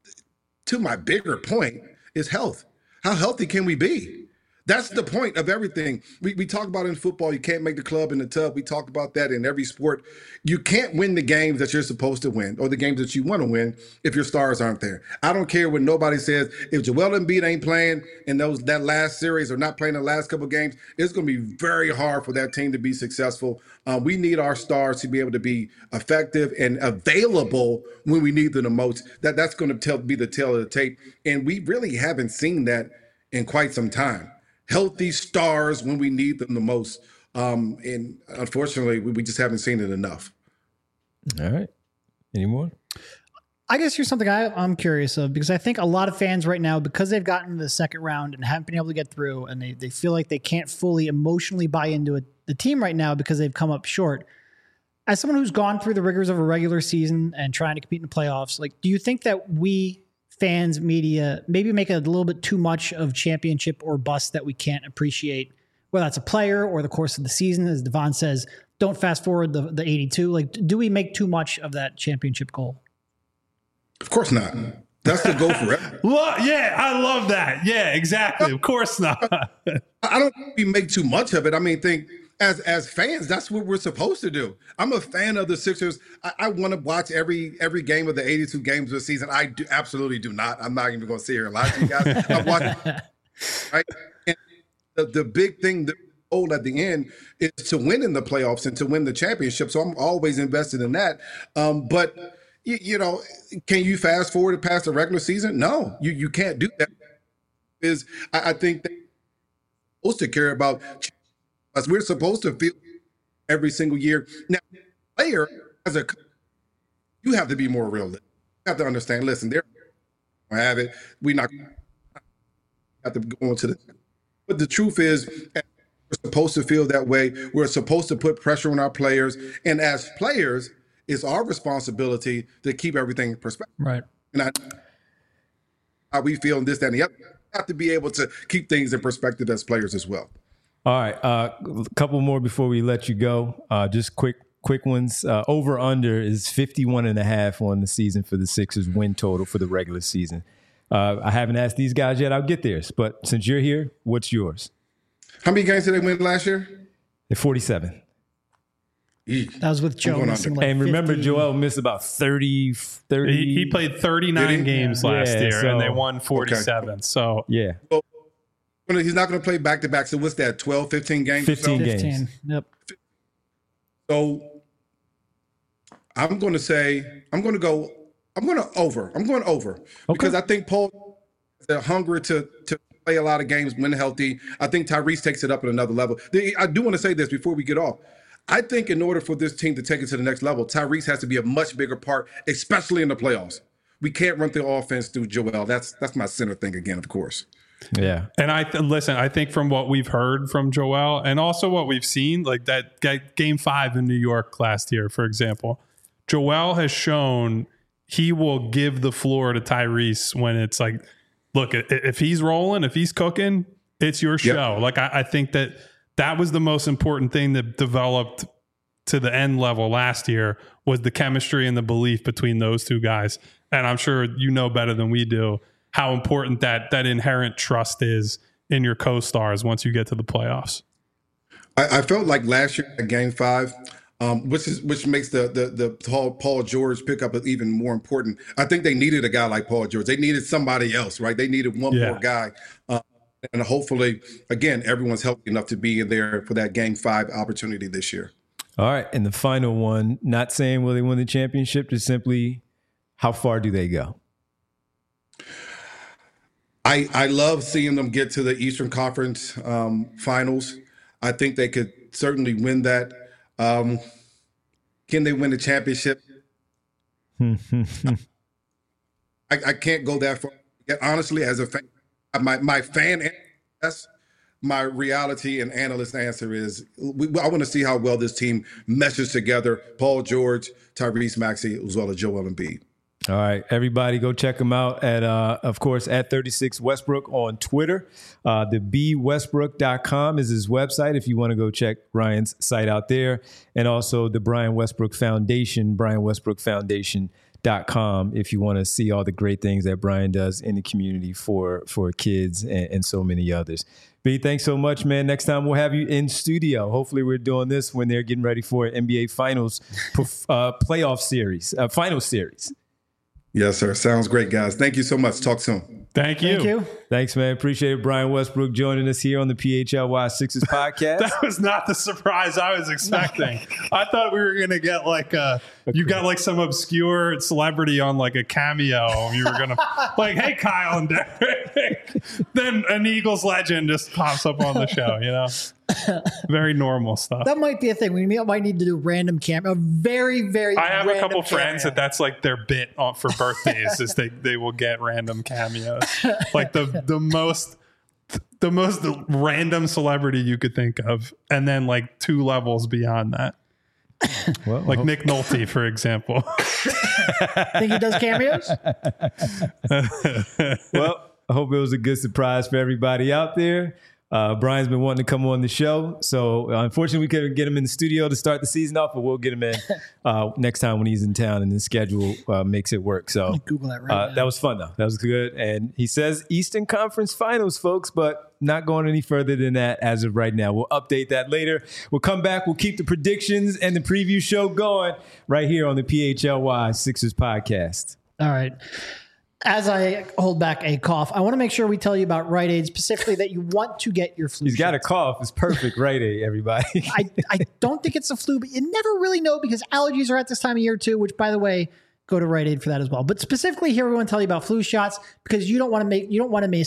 to my bigger point is health. How healthy can we be? That's the point of everything. We talk about in football, you can't make the club in the tub. We talk about that in every sport. You can't win the games that you're supposed to win or the games that you want to win if your stars aren't there. I don't care what nobody says. If Joel Embiid ain't playing in that last series or not playing the last couple of games, it's going to be very hard for that team to be successful. We need our stars to be able to be effective and available when we need them the most. That's going to be the tail of the tape. And we really haven't seen that in quite some time. Healthy stars when we need them the most. And unfortunately, we just haven't seen it enough. All right. Any more? I guess here's something I'm curious of, because I think a lot of fans right now, because they've gotten to the second round and haven't been able to get through, and they feel like they can't fully emotionally buy into the team right now because they've come up short. As someone who's gone through the rigors of a regular season and trying to compete in the playoffs, do you think that we fans, media, maybe make a little bit too much of championship or bust that we can't appreciate, whether that's a player or the course of the season? As Devon says, don't fast forward the 82. Do we make too much of that championship goal? Of course not. That's the goal forever. Yeah, I love that. Yeah, exactly. Of course not. I don't think we make too much of it. I mean, as fans, that's what we're supposed to do. I'm a fan of the Sixers. I want to watch every game of the 82 games of the season. I absolutely do not. I'm not even going to sit here and lie to you guys. I watch, right? And the big thing, the goal at the end is to win in the playoffs and to win the championship. So I'm always invested in that. But can you fast forward past the regular season? No, you can't do that. I think they're supposed to care about. We're supposed to feel every single year. Now, player, as a coach, you have to be more realistic. You have to understand, listen, they're going to have it. We're not going to have to go into the. But the truth is, we're supposed to feel that way. We're supposed to put pressure on our players. And as players, it's our responsibility to keep everything in perspective. Right. And how we feel in this, that, and the other. We have to be able to keep things in perspective as players as well. All right, a couple more before we let you go. Just quick ones. Over under is 51.5 on the season for the Sixers win total for the regular season. I haven't asked these guys yet. I'll get theirs, but since you're here, what's yours? How many games did they win last year? They're 47. That was with Joe missing like and remember, 50. Joel missed about 30. He played 39 games last year, so, and they won 47. Okay. So yeah. Well, he's not going to play back-to-back. So what's that, 12, 15 games? 15 games. 15. Yep. So I'm going to over because I think Paul has a hunger to play a lot of games when healthy. I think Tyrese takes it up at another level. I do want to say this before we get off. I think in order for this team to take it to the next level, Tyrese has to be a much bigger part, especially in the playoffs. We can't run the offense through Joel. That's my center thing again, of course. Yeah. And I think from what we've heard from Joel and also what we've seen, like that game 5 in New York last year, for example, Joel has shown he will give the floor to Tyrese when it's like, look, if he's rolling, if he's cooking, it's your show. Yep. Like, I think that was the most important thing that developed to the end level last year was the chemistry and the belief between those two guys. And I'm sure you know better than we do how important that inherent trust is in your co-stars once you get to the playoffs. I felt like last year at Game 5, which makes the Paul George pickup even more important. I think they needed a guy like Paul George. They needed somebody else, right? They needed one more guy. And hopefully, again, everyone's healthy enough to be there for that Game 5 opportunity this year. All right. And the final one, not saying will they win the championship, just simply how far do they go? I love seeing them get to the Eastern Conference finals. I think they could certainly win that. Can they win the championship? I can't go that far. Honestly, as a fan, my fan, that's my reality and analyst answer is I want to see how well this team meshes together. Paul George, Tyrese Maxey, as well as Joel Embiid. All right, everybody, go check him out at, of course, at 36 Westbrook on Twitter. The BWestbrook.com is his website if you want to go check Brian's site out there. And also the Brian Westbrook Foundation, BrianWestbrookFoundation.com if you want to see all the great things that Brian does in the community for kids and so many others. B, thanks so much, man. Next time we'll have you in studio. Hopefully we're doing this when they're getting ready for an NBA Finals playoff series, final series. Yes, sir. Sounds great, guys. Thank you so much. Talk soon. Thank you. Thanks, man. Appreciate it. Brian Westbrook joining us here on the PHLY Sixers podcast. That was not the surprise I was expecting. I thought we were going to get like you got like some obscure celebrity on like a cameo. You were going to like, hey, Kyle and Derek. Then an Eagles legend just pops up on the show, you know? Very normal stuff. That might be a thing. We might need to do random cameo. A very, very I have a couple cameo. friends that's like their bit for birthdays is they will get random cameos. Like the most random celebrity you could think of, and then like 2 levels beyond that. Well, like Nick Nolte, for example. Think he does cameos? Well, I hope it was a good surprise for everybody out there. Brian's been wanting to come on the show, so unfortunately we couldn't get him in the studio to start the season off, but we'll get him in next time when he's in town and the schedule makes it work. So Google that right now. That was fun, though. That was good. And he says Eastern Conference Finals, folks, but not going any further than that as of right now. We'll update that later. We'll come back. We'll keep the predictions and the preview show going right here on the PHLY Sixers podcast. All right. As I hold back a cough, I want to make sure we tell you about Rite Aid, specifically that you want to get your flu He's got a shots. cough. It's perfect, Rite Aid, everybody. I don't think it's the flu, but you never really know because allergies are at this time of year too, which, by the way, go to Rite Aid for that as well. But specifically here, we want to tell you about flu shots because you don't want to miss the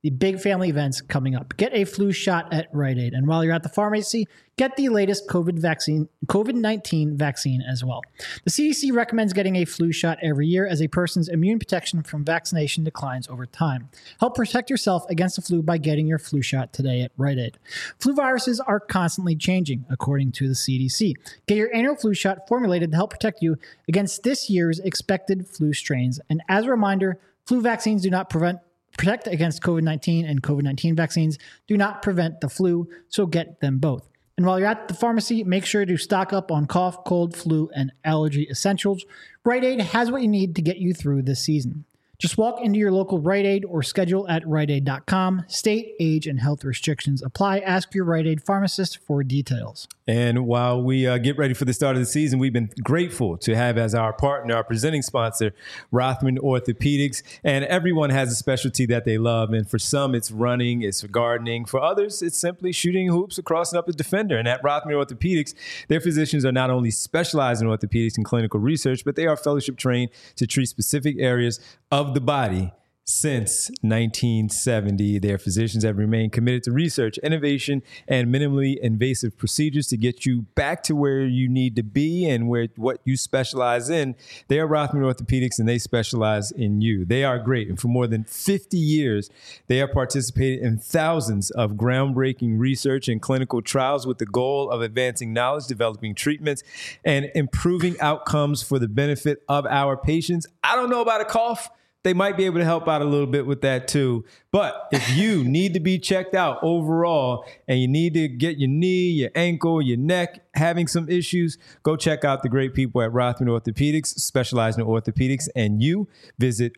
the big family events coming up. Get a flu shot at Rite Aid. And while you're at the pharmacy, get the latest COVID-19 vaccine as well. The CDC recommends getting a flu shot every year as a person's immune protection from vaccination declines over time. Help protect yourself against the flu by getting your flu shot today at Rite Aid. Flu viruses are constantly changing, according to the CDC. Get your annual flu shot formulated to help protect you against this year's expected flu strains. And as a reminder, flu vaccines do not protect against COVID-19, and COVID-19 vaccines do not prevent the flu, so get them both. And while you're at the pharmacy, make sure to stock up on cough, cold, flu, and allergy essentials. Rite Aid has what you need to get you through this season. Just walk into your local Rite Aid or schedule at riteaid.com. State, age, and health restrictions apply. Ask your Rite Aid pharmacist for details. And while we get ready for the start of the season, we've been grateful to have as our partner, our presenting sponsor, Rothman Orthopedics. And everyone has a specialty that they love. And for some, it's running, it's gardening. For others, it's simply shooting hoops or crossing up a defender. And at Rothman Orthopedics, their physicians are not only specialized in orthopedics and clinical research, but they are fellowship trained to treat specific areas of the body. Since 1970, their physicians have remained committed to research, innovation, and minimally invasive procedures to get you back to where you need to be and what you specialize in. They are Rothman Orthopedics, and they specialize in you. They are great. And for more than 50 years, they have participated in thousands of groundbreaking research and clinical trials with the goal of advancing knowledge, developing treatments, and improving outcomes for the benefit of our patients. I don't know about a cough. They might be able to help out a little bit with that too. But if you need to be checked out overall and you need to get your knee, your ankle, your neck having some issues, go check out the great people at Rothman Orthopedics, specializing in orthopedics. And you visit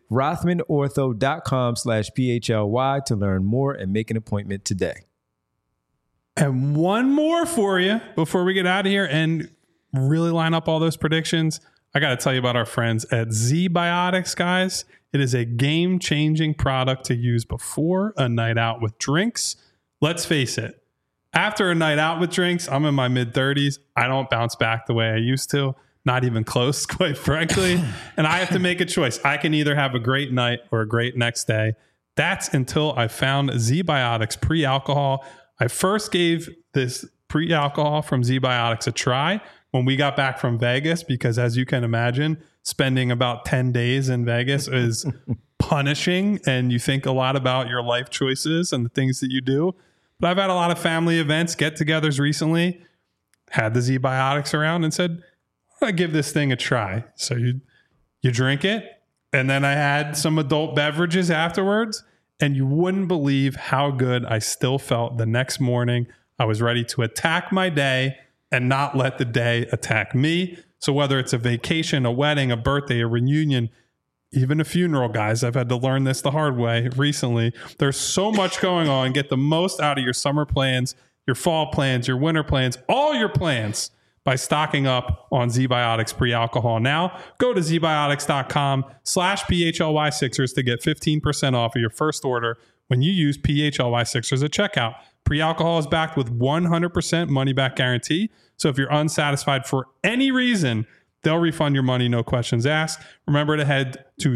rothmanortho.com/PHLY to learn more and make an appointment today. And one more for you before we get out of here and really line up all those predictions. I got to tell you about our friends at ZBiotics, guys. It is a game-changing product to use before a night out with drinks. Let's face it, after a night out with drinks, I'm in my mid-30s. I don't bounce back the way I used to. Not even close, quite frankly. And I have to make a choice. I can either have a great night or a great next day. That's until I found ZBiotics pre-alcohol. I first gave this pre-alcohol from ZBiotics a try when we got back from Vegas, because as you can imagine, spending about 10 days in Vegas is punishing, and you think a lot about your life choices and the things that you do. But I've had a lot of family events, get-togethers recently, had the ZBiotics around and said, I'll give this thing a try. So you drink it, and then I had some adult beverages afterwards, and you wouldn't believe how good I still felt the next morning. I was ready to attack my day and not let the day attack me. So whether it's a vacation, a wedding, a birthday, a reunion, even a funeral, guys, I've had to learn this the hard way recently. There's so much going on. Get the most out of your summer plans, your fall plans, your winter plans, all your plans by stocking up on ZBiotics pre-alcohol. Now, go to zbiotics.com/PHLY6ers to get 15% off of your first order when you use PHLY6ers at checkout. Pre-alcohol is backed with 100% money-back guarantee. So if you're unsatisfied for any reason, they'll refund your money, no questions asked. Remember to head to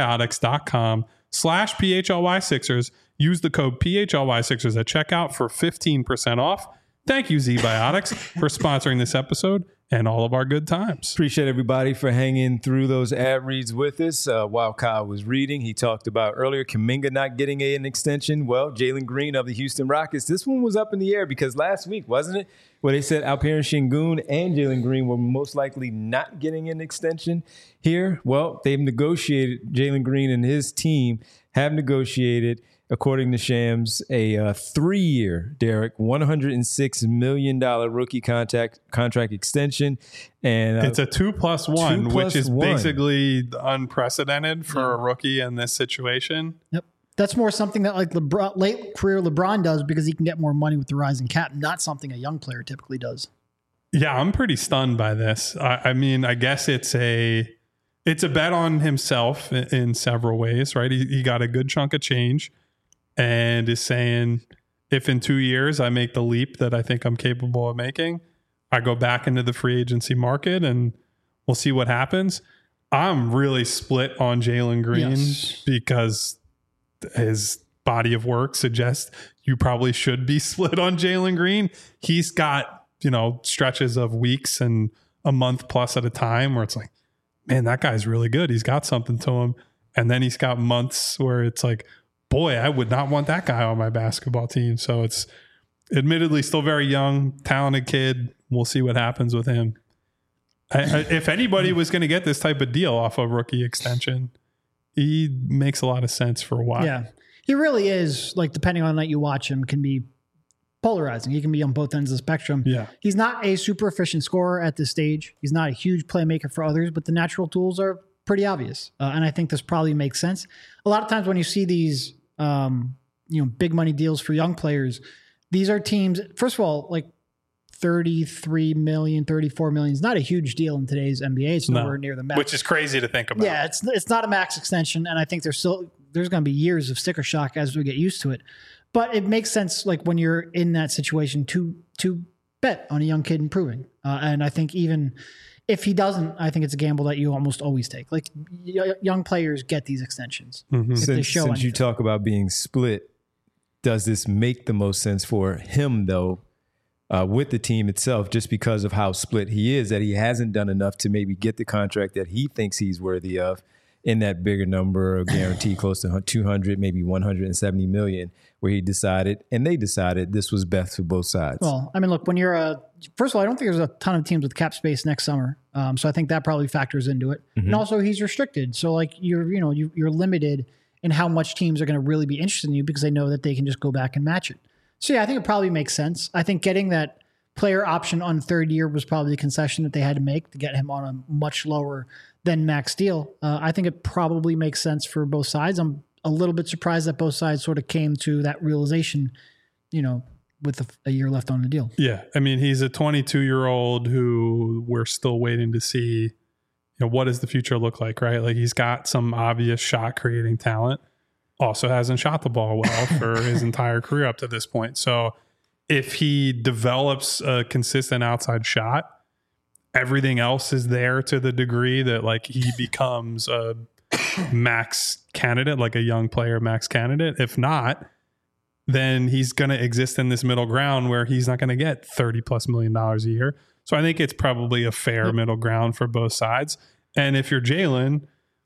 zbiotics.com/PHLY6ers. Use the code PHLY6ers at checkout for 15% off. Thank you, ZBiotics, for sponsoring this episode and all of our good times. Appreciate everybody for hanging through those ad reads with us. While Kyle was reading, he talked about earlier Kuminga not getting an extension. Well, Jalen Green of the Houston Rockets, this one was up in the air because last week, wasn't it, where they said Alperen Sengun and Jalen Green were most likely not getting an extension here? Well, they've negotiated, Jalen Green and his team have negotiated, according to Shams, a 3-year, Derek, $106 million rookie contract extension. And it's a 2+1, which is basically unprecedented for a rookie in this situation. Yep. That's more something that like LeBron, late career LeBron does because he can get more money with the rising cap, not something a young player typically does. Yeah, I'm pretty stunned by this. I mean, I guess it's a bet on himself in several ways, right? He got a good chunk of change and is saying, if in 2 years I make the leap that I think I'm capable of making, I go back into the free agency market and we'll see what happens. I'm really split on Jalen Green because his body of work suggests you probably should be split on Jalen Green. He's got, stretches of weeks and a month plus at a time where it's like, man, that guy's really good. He's got something to him. And then he's got months where it's like, boy, I would not want that guy on my basketball team. So it's admittedly still very young, talented kid. We'll see what happens with him. If anybody was going to get this type of deal off a rookie extension, he makes a lot of sense for a while. Yeah, he really is, like, depending on the night you watch him, can be polarizing. He can be on both ends of the spectrum. Yeah. He's not a super efficient scorer at this stage. He's not a huge playmaker for others, but the natural tools are pretty obvious. And I think this probably makes sense. A lot of times when you see these, big money deals for young players, these are teams, first of all, like 33 million, 34 million is not a huge deal in today's NBA. It's nowhere near the max. Which is crazy to think about. Yeah, it's not a max extension. And I think there's going to be years of sticker shock as we get used to it. But it makes sense, like, when you're in that situation to bet on a young kid improving. And I think even if he doesn't, I think it's a gamble that you almost always take. Like, young players get these extensions. Mm-hmm. Since you talk about being split, does this make the most sense for him, though, with the team itself, just because of how split he is, that he hasn't done enough to maybe get the contract that he thinks he's worthy of in that bigger number, a guarantee close to 200, maybe 170 million, where they decided this was best for both sides? Well, I mean, look, when you're first of all, I don't think there's a ton of teams with cap space next summer. So I think that probably factors into it. Mm-hmm. And also he's restricted. So, like, you're limited in how much teams are going to really be interested in you because they know that they can just go back and match it. So yeah, I think it probably makes sense. I think getting that player option on third year was probably a concession that they had to make to get him on a much lower than max deal. I think it probably makes sense for both sides. I'm a little bit surprised that both sides sort of came to that realization, with a year left on the deal. Yeah. I mean, he's a 22-year-old who we're still waiting to see, what does the future look like, right? Like, he's got some obvious shot creating talent. Also hasn't shot the ball well for his entire career up to this point. So if he develops a consistent outside shot, everything else is there to the degree that, like, he becomes a max candidate, like a young player max candidate. If not, then he's going to exist in this middle ground where he's not going to get $30+ million a year. So I think it's probably a fair middle ground for both sides. And if you're Jalen,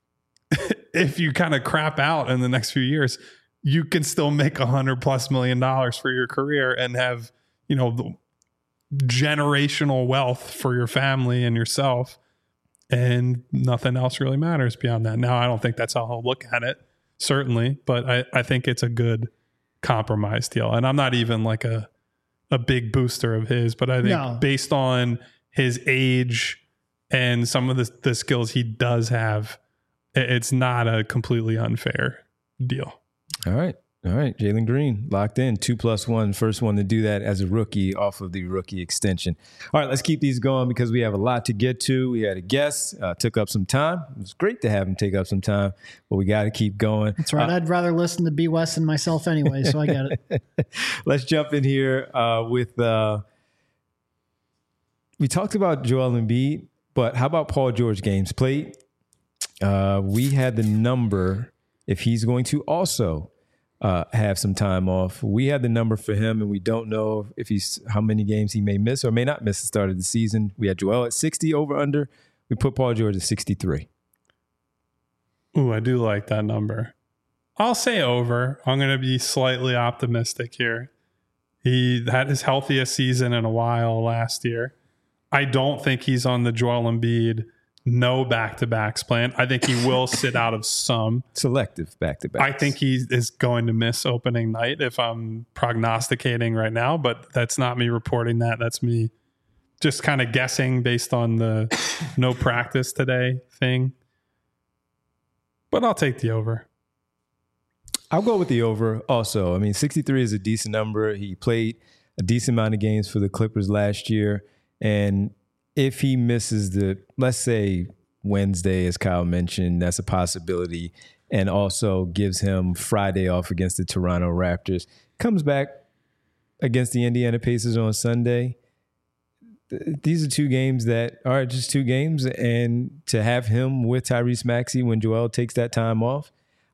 if you kind of crap out in the next few years, you can still make $100+ million for your career and have, the generational wealth for your family and yourself, and nothing else really matters beyond that. Now, I don't think that's how he'll look at it, certainly, but I think it's a good compromise deal. And I'm not even like a big booster of his, but I think based on his age and some of the skills he does have, it's not a completely unfair deal. All right. Jalen Green locked in 2+1. First one to do that as a rookie off of the rookie extension. All right, let's keep these going because we have a lot to get to. We had a guest, took up some time. It was great to have him take up some time, but we got to keep going. That's right. I'd rather listen to B. West than myself anyway, so I get it. Let's jump in here with we talked about Joel Embiid, but how about Paul George games played? We had the number if he's going to also have some time off. We had the number for him, and we don't know if how many games he may miss or may not miss the start of the season. We had Joel at 60 over under. We put Paul George at 63. Ooh, I do like that number. I'll say over. I'm going to be slightly optimistic here. He had his healthiest season in a while last year. I don't think he's on the Joel Embiid no back-to-backs plan. I think he will sit out of some. Selective back-to-backs. I think he is going to miss opening night if I'm prognosticating right now, but that's not me reporting that. That's me just kind of guessing based on the no practice today thing. But I'll take the over. I'll go with the over also. I mean, 63 is a decent number. He played a decent amount of games for the Clippers last year. And if he misses let's say Wednesday, as Kyle mentioned, that's a possibility, and also gives him Friday off against the Toronto Raptors, comes back against the Indiana Pacers on Sunday. These are two games that are just two games, and to have him with Tyrese Maxey when Joel takes that time off,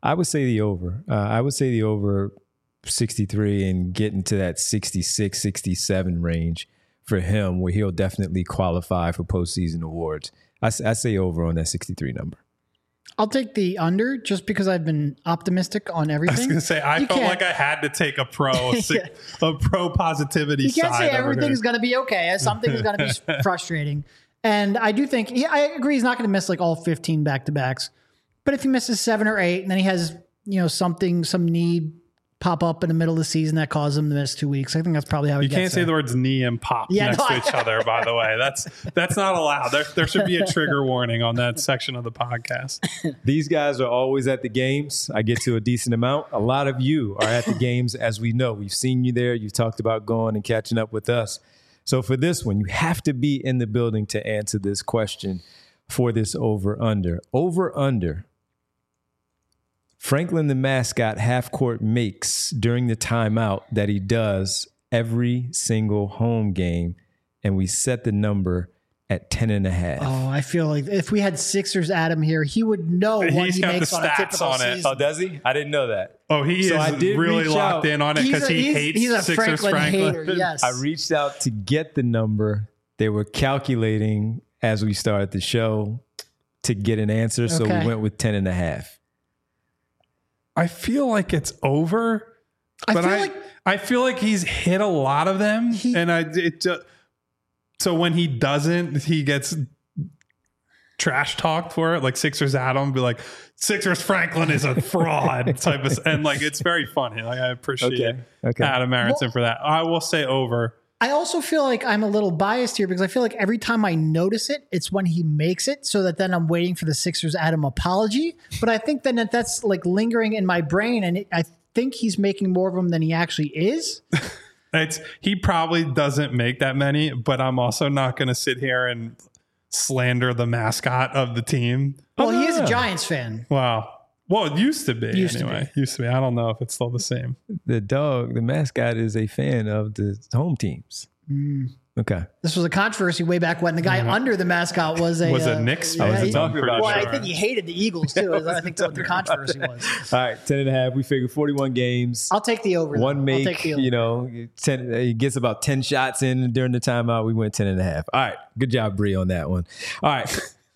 I would say the over. I would say the over 63 and get into that 66, 67 range for him, where he'll definitely qualify for postseason awards. I say over on that 63 number. I'll take the under just because I've been optimistic on everything. I was going to say, I felt like I had to take a pro positivity side. You can't say everything's going to be okay. Something's going to be frustrating. And I do think, I agree, he's not going to miss like all 15 back-to-backs. But if he misses 7 or 8 and then he has, some need pop up in the middle of the season that caused him to miss 2 weeks, I think that's probably how he gets there. You can't say the words knee and pop next to each other, by the way. That's not allowed. There should be a trigger warning on that section of the podcast. These guys are always at the games. I get to a decent amount. A lot of you are at the games, as we know. We've seen you there. You've talked about going and catching up with us. So for this one, you have to be in the building to answer this question for this over-under. Over-under. Franklin the mascot half-court makes during the timeout that he does every single home game, and we set the number at 10.5. Oh, I feel like if we had Sixers Adam here, he would know what he makes on a typical season. Oh, does he? I didn't know that. Oh, he is really locked in on it because he hates Sixers Franklin. Hater, yes. I reached out to get the number. They were calculating as we started the show to get an answer, so we went with 10.5. I feel like it's over, but I feel like he's hit a lot of them, so when he doesn't, he gets trash talked for it. Like Sixers Adam be like, Sixers Franklin is a fraud type of, and like it's very funny. Like I appreciate Adam Aronson for that. I will say over. I also feel like I'm a little biased here because I feel like every time I notice it, it's when he makes it, so that then I'm waiting for the Sixers Adam apology. But I think then that's like lingering in my brain, and I think he's making more of them than he actually is. He probably doesn't make that many, but I'm also not going to sit here and slander the mascot of the team. Well, he is a Giants fan. Wow. Well, it used to be anyway. Used to be. I don't know if it's still the same. The mascot is a fan of the home teams. Okay. This was a controversy way back when the guy under the mascot was a Knicks fan. I think he hated the Eagles too. I think that's what the controversy was. All right, 10.5. We figured 41 games. I'll take the over. One make, 10. He gets about 10 shots in during the timeout. We went 10.5. All right, good job, Bree, on that one. All right.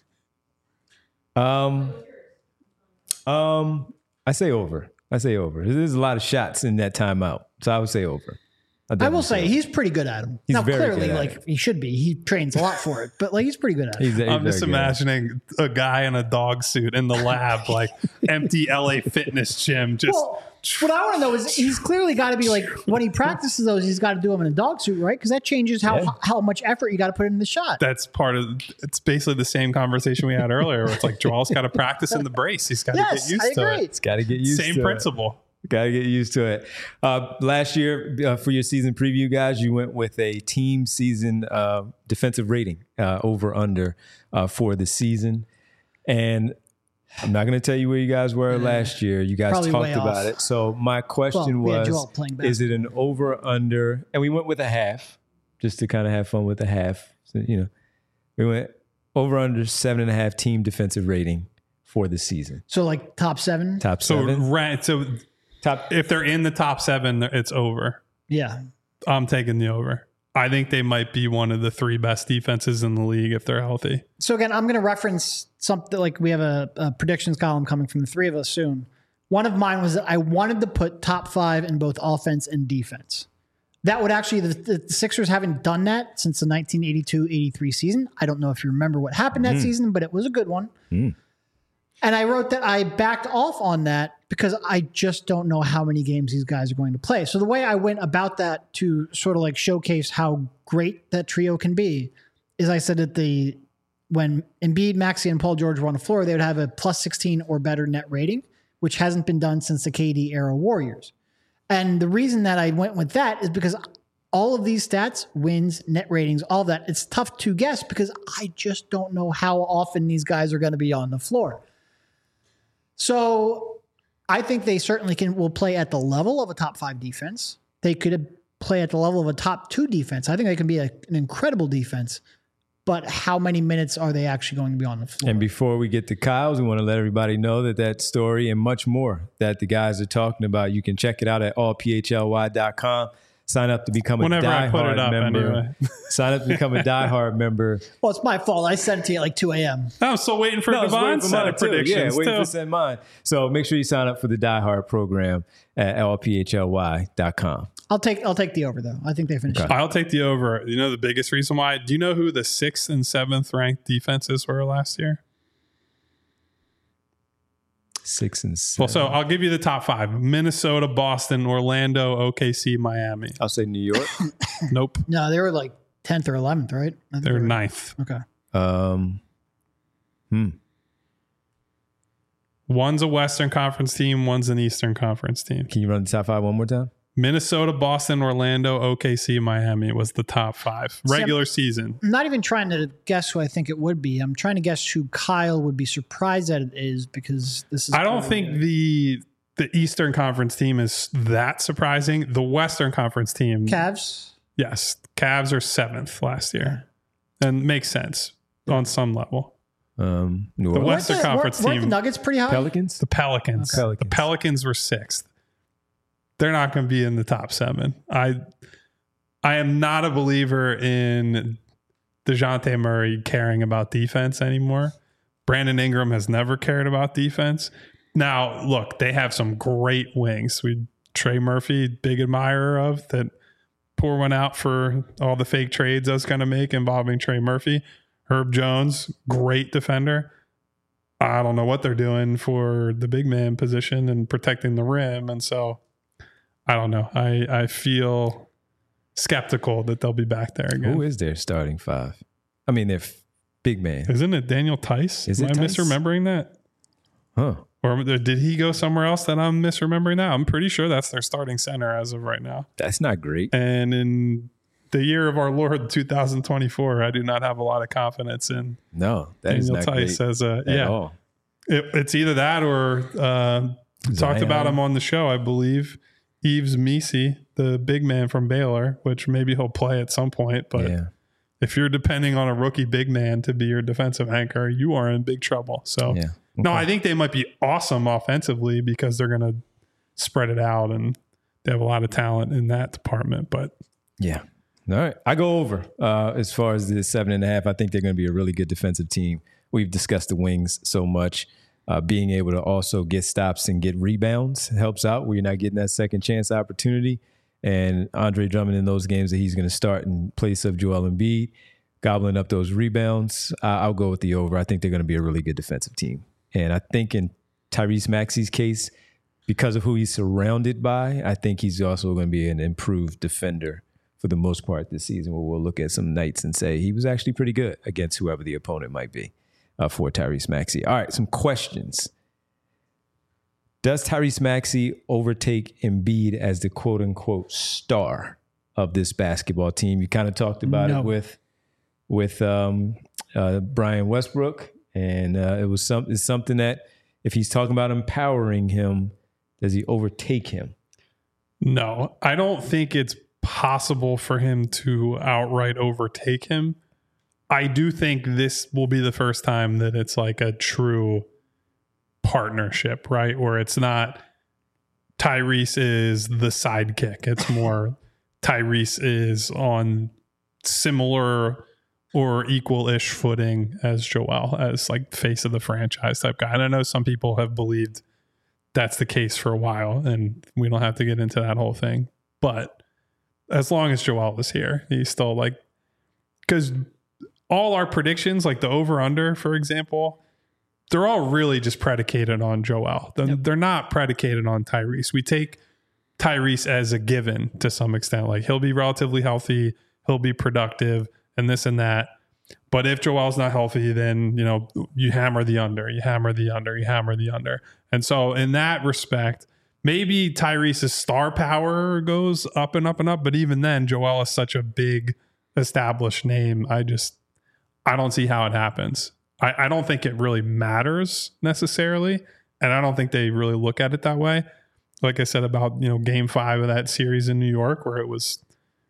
I say over. There's a lot of shots in that timeout, so I would say over. I will say he's pretty good at them. Now, clearly, he should be. He trains a lot for it, but he's pretty good at it. I'm just imagining a guy in a dog suit in the lab, like empty LA Fitness gym. What I want to know is he's clearly got to be like, when he practices those, he's got to do them in a dog suit, right? Because that changes how much effort you got to put in the shot. That's it's basically the same conversation we had earlier. Where it's like Joel's got to practice in the brace. He's got to get used to it. It's got to get used to it. Same principle. Got to get used to it. Last year, for your season preview, guys, you went with a team season defensive rating over under for the season. And I'm not going to tell you where you guys were last year. You guys Probably talked about it. So my question was, is it an over under? And we went with a half just to kind of have fun with a half. So, we went over under 7.5 team defensive rating for the season. So like top 7? Top 7. So if they're in the top 7, it's over. Yeah. I'm taking the over. I think they might be one of the 3 best defenses in the league if they're healthy. So again, I'm going to reference something like we have a predictions column coming from the 3 of us soon. One of mine was that I wanted to put top 5 in both offense and defense. That would actually, the Sixers haven't done that since the 1982-83 season. I don't know if you remember what happened that season, but it was a good one. And I wrote that I backed off on that because I just don't know how many games these guys are going to play. So the way I went about that to sort of like showcase how great that trio can be is I said that when Embiid, Maxey, and Paul George were on the floor, they would have a plus 16 or better net rating, which hasn't been done since the KD era Warriors. And the reason that I went with that is because all of these stats, wins, net ratings, all of that, it's tough to guess because I just don't know how often these guys are going to be on the floor. So I think they certainly will play at the level of a top 5 defense. They could play at the level of a top 2 defense. I think they can be an incredible defense. but how many minutes are they actually going to be on the floor? And before we get to Kyle's, we want to let everybody know that story and much more that the guys are talking about, you can check it out at allphly.com. Sign up to become a diehard member. Anyway. Sign up to become a diehard member. Well, it's my fault. I sent it to you at like 2 a.m. I'm still waiting for Devon's set of predictions. Yeah, waiting to send mine. So make sure you sign up for the diehard program at allphly.com. I'll take the over, though. I think they finished. Okay. I'll take the over. You know the biggest reason why? Do you know who the 6th and 7th ranked defenses were last year? 6 and 7. Well, so I'll give you the top 5. Minnesota, Boston, Orlando, OKC, Miami. I'll say New York. Nope. No, they were like 10th or 11th, right? They're 9th. Okay. One's a Western Conference team. One's an Eastern Conference team. Can you run the top 5 one more time? Minnesota, Boston, Orlando, OKC, Miami was the top 5 regular season. I'm not even trying to guess who I think it would be. I'm trying to guess who Kyle would be surprised that it is, because this is. I don't think the Eastern Conference team is that surprising. The Western Conference team, Cavs. Yes, Cavs are 7th last year, and makes sense on some level. The Western Conference team, the Nuggets pretty high. Pelicans. The Pelicans. Okay. The Pelicans were 6th. They're not going to be in the top 7. I am not a believer in DeJounte Murray caring about defense anymore. Brandon Ingram has never cared about defense. Now, look, they have some great wings. Trey Murphy, big admirer of, that pour one out for all the fake trades I was going to make involving Trey Murphy. Herb Jones, great defender. I don't know what they're doing for the big man position and protecting the rim. And so I don't know. I feel skeptical that they'll be back there again. Who is their starting 5? I mean, they're big man. Isn't it Daniel Tice? Is it Am I Tice? misremembering that? Huh. Or did he go somewhere else that I'm misremembering now? I'm pretty sure that's their starting center as of right now. That's not great. And in the year of our Lord 2024, I do not have a lot of confidence in Daniel Tice as at all. It's either that or talked about him on the show, I believe. Yves Missi, the big man from Baylor, which maybe he'll play at some point. But if you're depending on a rookie big man to be your defensive anchor, you are in big trouble. So, no, I think they might be awesome offensively because they're going to spread it out and they have a lot of talent in that department. But all right, I go over as far as the 7.5. I think they're going to be a really good defensive team. We've discussed the wings so much. Being able to also get stops and get rebounds helps out where you're not getting that second chance opportunity. And Andre Drummond in those games that he's going to start in place of Joel Embiid, gobbling up those rebounds, I'll go with the over. I think they're going to be a really good defensive team. And I think in Tyrese Maxey's case, because of who he's surrounded by, I think he's also going to be an improved defender for the most part this season, where we'll look at some nights and say he was actually pretty good against whoever the opponent might be. For Tyrese Maxey. All right, some questions. Does Tyrese Maxey overtake Embiid as the quote-unquote star of this basketball team? You kind of talked about it with Brian Westbrook, and it's something that if he's talking about empowering him, does he overtake him? No, I don't think it's possible for him to outright overtake him. I do think this will be the first time that it's like a true partnership, right? Where it's not Tyrese is the sidekick. It's more Tyrese is on similar or equal-ish footing as Joel, as like face of the franchise type guy. And I know some people have believed that's the case for a while, and we don't have to get into that whole thing. But as long as Joel is here, he's still like, because all our predictions, like the over-under, for example, they're all really just predicated on Joel. They're not predicated on Tyrese. We take Tyrese as a given to some extent. Like he'll be relatively healthy, he'll be productive, and this and that. But if Joel's not healthy, then you hammer the under, you hammer the under, you hammer the under. And so in that respect, maybe Tyrese's star power goes up and up and up. But even then, Joel is such a big established name. I don't see how it happens. I don't think it really matters necessarily. And I don't think they really look at it that way. Like I said about, game 5 of that series in New York, where it was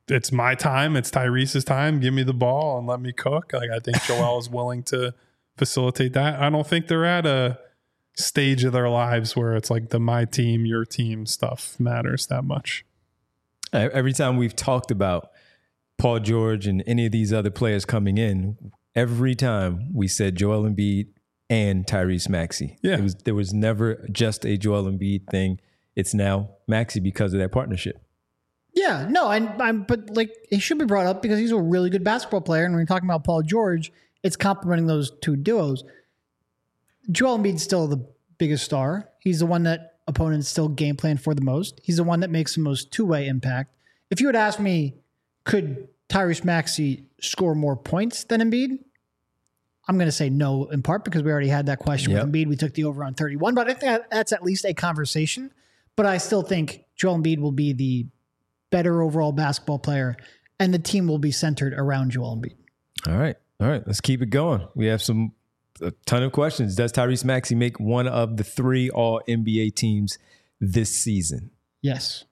it's my time. It's Tyrese's time. Give me the ball and let me cook. Like, I think Joel is willing to facilitate that. I don't think they're at a stage of their lives where it's like the my team, your team stuff matters that much. Every time we've talked about Paul George and any of these other players coming in, every time we said Joel Embiid and Tyrese Maxey. Yeah. There was never just a Joel Embiid thing. It's now Maxey because of that partnership. Yeah, no, but like he should be brought up because he's a really good basketball player. And when you're talking about Paul George, it's complementing those two duos. Joel Embiid's still the biggest star. He's the one that opponents still game plan for the most. He's the one that makes the most two-way impact. If you had asked me, could Tyrese Maxey score more points than Embiid? I'm going to say no, in part because we already had that question with Embiid. We took the over on 31, but I think that's at least a conversation. But I still think Joel Embiid will be the better overall basketball player, and the team will be centered around Joel Embiid. All right. Let's keep it going. We have a ton of questions. Does Tyrese Maxey make one of the 3 All-NBA teams this season? Yes.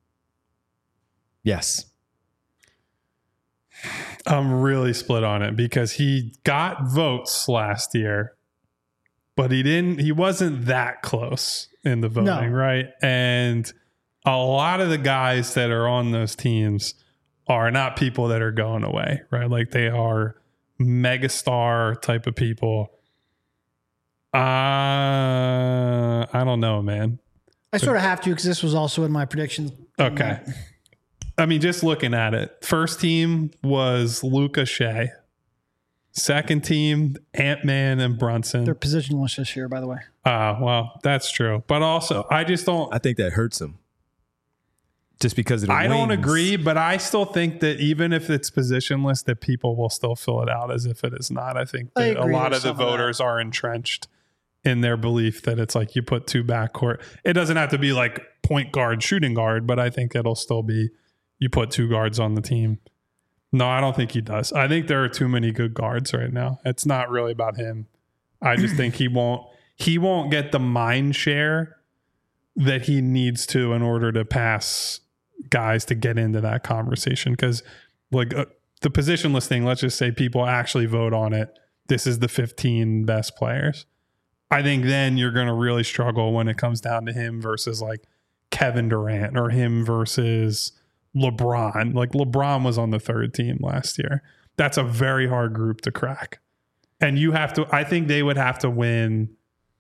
Yes. I'm really split on it because he got votes last year, but he wasn't that close in the voting, right? And a lot of the guys that are on those teams are not people that are going away, right? Like they are megastar type of people. I don't know, man. I sort of have to because this was also in my predictions. Okay. I mean, just looking at it, first team was Luka Shea. Second team, Ant-Man and Brunson. They're positionless this year, by the way. Well, that's true. But also, I think that hurts him. Just because of the I wings. don't agree, but I still think that even if it's positionless, that people will still fill it out as if it is not. I think that a lot of the voters are entrenched in their belief that it's like you put 2 backcourt. It doesn't have to be like point guard, shooting guard, but I think it'll still be you put 2 guards on the team. No, I don't think he does. I think there are too many good guards right now. It's not really about him. I just think he won't get the mind share that he needs to in order to pass guys to get into that conversation. Because like the positionless thing, let's just say people actually vote on it. This is the 15 best players. I think then you're going to really struggle when it comes down to him versus like Kevin Durant or him versus LeBron. Like LeBron was on the 3rd team last year. That's a very hard group to crack. And I think they would have to win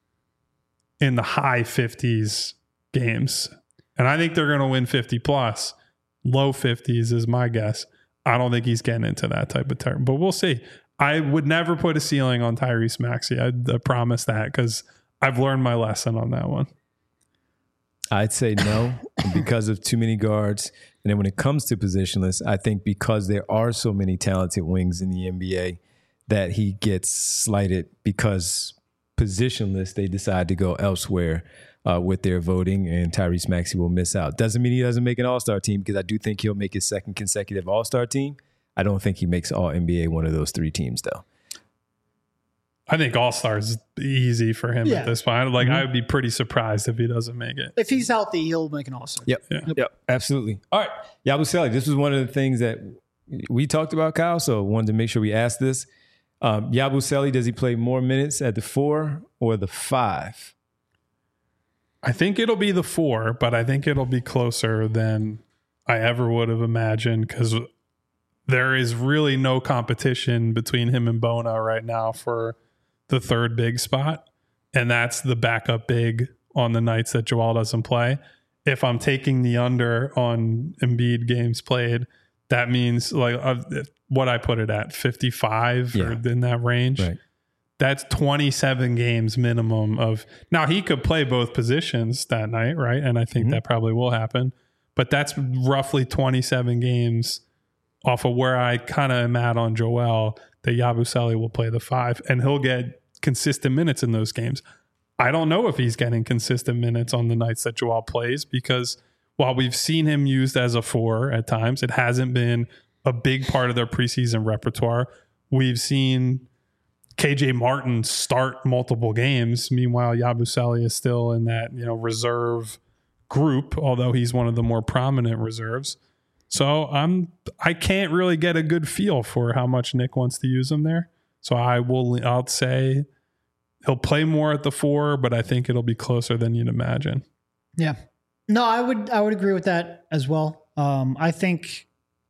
in the high 50s games. And I think they're going to win 50 plus. Low 50s is my guess. I don't think he's getting into that type of term, but we'll see. I would never put a ceiling on Tyrese Maxey. I promise that because I've learned my lesson on that one. I'd say no because of too many guards. And then when it comes to positionless, I think because there are so many talented wings in the NBA that he gets slighted because positionless, they decide to go elsewhere with their voting, and Tyrese Maxey will miss out. Doesn't mean he doesn't make an all-star team because I do think he'll make his 2nd consecutive all-star team. I don't think he makes all-NBA one of those 3 teams, though. I think all-star is easy for him at this point. Like, I would be pretty surprised if he doesn't make it. If he's healthy, he'll make an all-star. Yep, absolutely. All right, Yabusele, this was one of the things that we talked about, Kyle, so wanted to make sure we asked this. Yabusele, does he play more minutes at the 4 or the 5? I think it'll be the 4, but I think it'll be closer than I ever would have imagined because there is really no competition between him and Bona right now for the 3rd big spot. And that's the backup big on the nights that Joel doesn't play. If I'm taking the under on Embiid games played, that means like what I put it at 55 or in that range. Right. That's 27 games minimum of. Now he could play both positions that night, right? And I think that probably will happen. But that's roughly 27 games off of where I kind of am at on Joel, that Yabusele will play the 5 and he'll get consistent minutes in those games. I don't know if he's getting consistent minutes on the nights that Joel plays because while we've seen him used as a 4 at times, it hasn't been a big part of their preseason repertoire. We've seen KJ Martin start multiple games. Meanwhile, Yabusele is still in that reserve group, although he's one of the more prominent reserves. So I can't really get a good feel for how much Nick wants to use him there. So I'll say he'll play more at the 4, but I think it'll be closer than you'd imagine. Yeah. No, I would agree with that as well. I think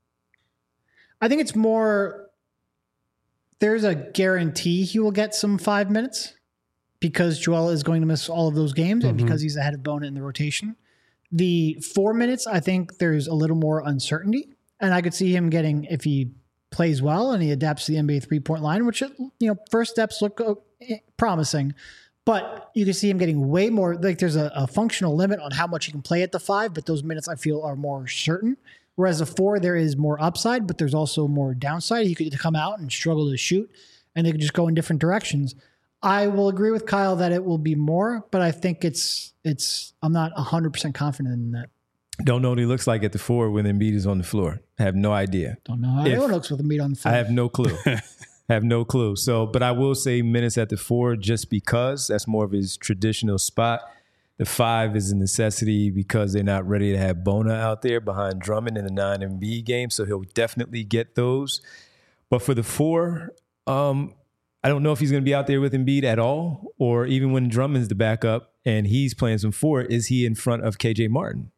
it's more, there's a guarantee he will get some 5 minutes because Joel is going to miss all of those games and because he's ahead of Bona in the rotation. The 4 minutes, I think there's a little more uncertainty, and I could see him getting, if he plays well and he adapts to the NBA 3-point line, which, first steps look promising, but you can see him getting way more. Like there's a functional limit on how much he can play at the 5, but those minutes I feel are more certain. Whereas a 4, there is more upside, but there's also more downside. He could come out and struggle to shoot, and they could just go in different directions. I will agree with Kyle that it will be more, but I think I'm not 100% confident in that. Don't know what he looks like at the 4 when Embiid is on the floor. I have no idea. Don't know how anyone looks with Embiid on the floor. I have no clue. Have no clue. So, but I will say minutes at the 4 just because that's more of his traditional spot. The 5 is a necessity because they're not ready to have Bona out there behind Drummond in the 9 Embiid game. So he'll definitely get those. But for the 4, I don't know if he's going to be out there with Embiid at all, or even when Drummond's the backup and he's playing some 4, is he in front of KJ Martin?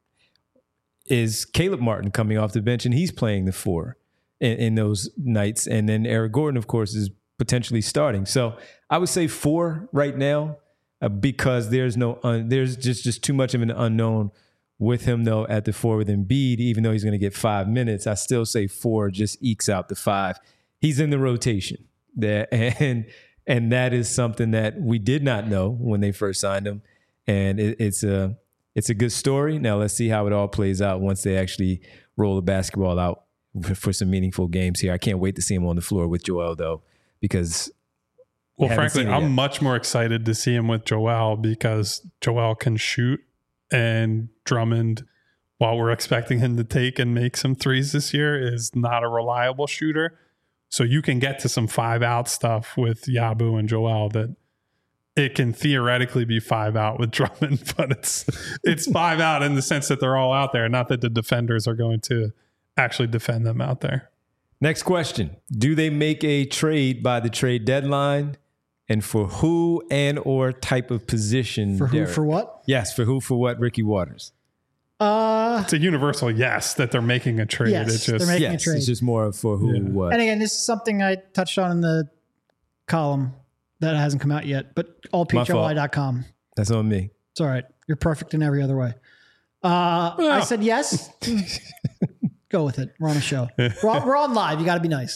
Is Caleb Martin coming off the bench and he's playing the 4 in those nights? And then Eric Gordon, of course, is potentially starting. So I would say 4 right now because there's just too much of an unknown with him, though, at the 4 with Embiid. Even though he's going to get 5 minutes, I still say 4 just ekes out the 5. He's in the rotation there, and that is something that we did not know when they first signed him. And it's a good story. Now let's see how it all plays out once they actually roll the basketball out for some meaningful games here. I can't wait to see him on the floor with Joel, though, because frankly, I'm much more excited to see him with Joel because Joel can shoot, and Drummond, while we're expecting him to take and make some threes this year, is not a reliable shooter. So you can get to some 5-out stuff with Yabu and Joel that it can theoretically be 5-out with Drummond, but it's 5-out in the sense that they're all out there, not that the defenders are going to actually defend them out there. Next question. Do they make a trade by the trade deadline? And for who and or type of position? For who, Derek? For what? Yes, for who, for what, Ricky Waters? It's a universal yes that they're making a trade. Yes, they're making a trade. It's just more for who, what. And again, this is something I touched on in the column that hasn't come out yet, but allphly.com. That's on me. It's all right. You're perfect in every other way. I said yes. Go with it. We're on a show. We're on live. You got to be nice.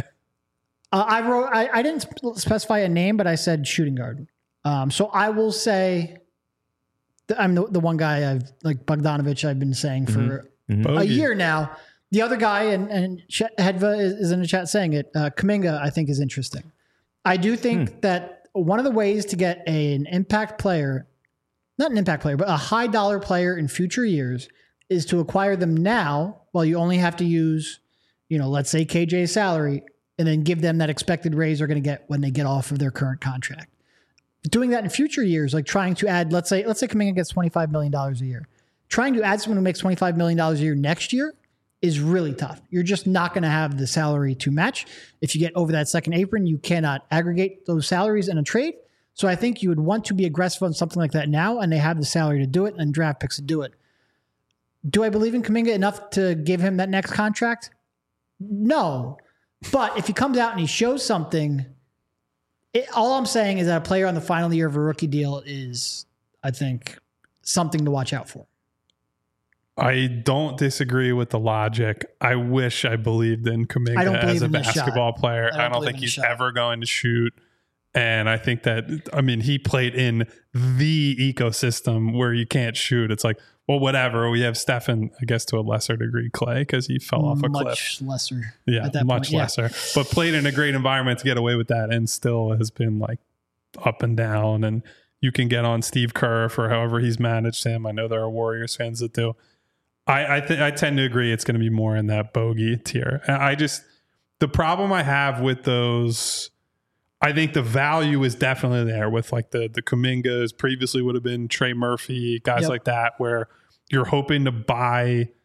I didn't specify a name, but I said shooting guard. So I will say I'm the one guy I've like Bogdanovich I've been saying for a year now. The other guy, and Hedva is in the chat saying it, Kuminga, I think is interesting. I do think that one of the ways to get an impact player, not an impact player, but a high dollar player in future years is to acquire them now while you only have to use, let's say KJ's salary, and then give them that expected raise they're going to get when they get off of their current contract. Doing that in future years, like trying to add, let's say Kuminga gets $25 million a year. Trying to add someone who makes $25 million a year next year is really tough. You're just not going to have the salary to match. If you get over that second apron, you cannot aggregate those salaries in a trade. So I think you would want to be aggressive on something like that now, and they have the salary to do it and draft picks to do it. Do I believe in Kuminga enough to give him that next contract? No. But if he comes out and he shows something, all I'm saying is that a player on the final year of a rookie deal is, I think, something to watch out for. I don't disagree with the logic. I wish I believed in Kuminga as a basketball player. I don't think he's ever going to shoot. And I think that, he played in the ecosystem where you can't shoot. It's like, well, whatever. We have Stephen, I guess to a lesser degree, Clay, because he fell off a cliff. Much lesser. Yeah, much lesser. But played in a great environment to get away with that and still has been like up and down. And you can get on Steve Kerr for however he's managed him. I know there are Warriors fans that do. I tend to agree it's going to be more in that bogey tier. The problem I have with those, I think the value is definitely there with like the Kumingas, previously would have been Trey Murphy, guys like that, where you're hoping to buy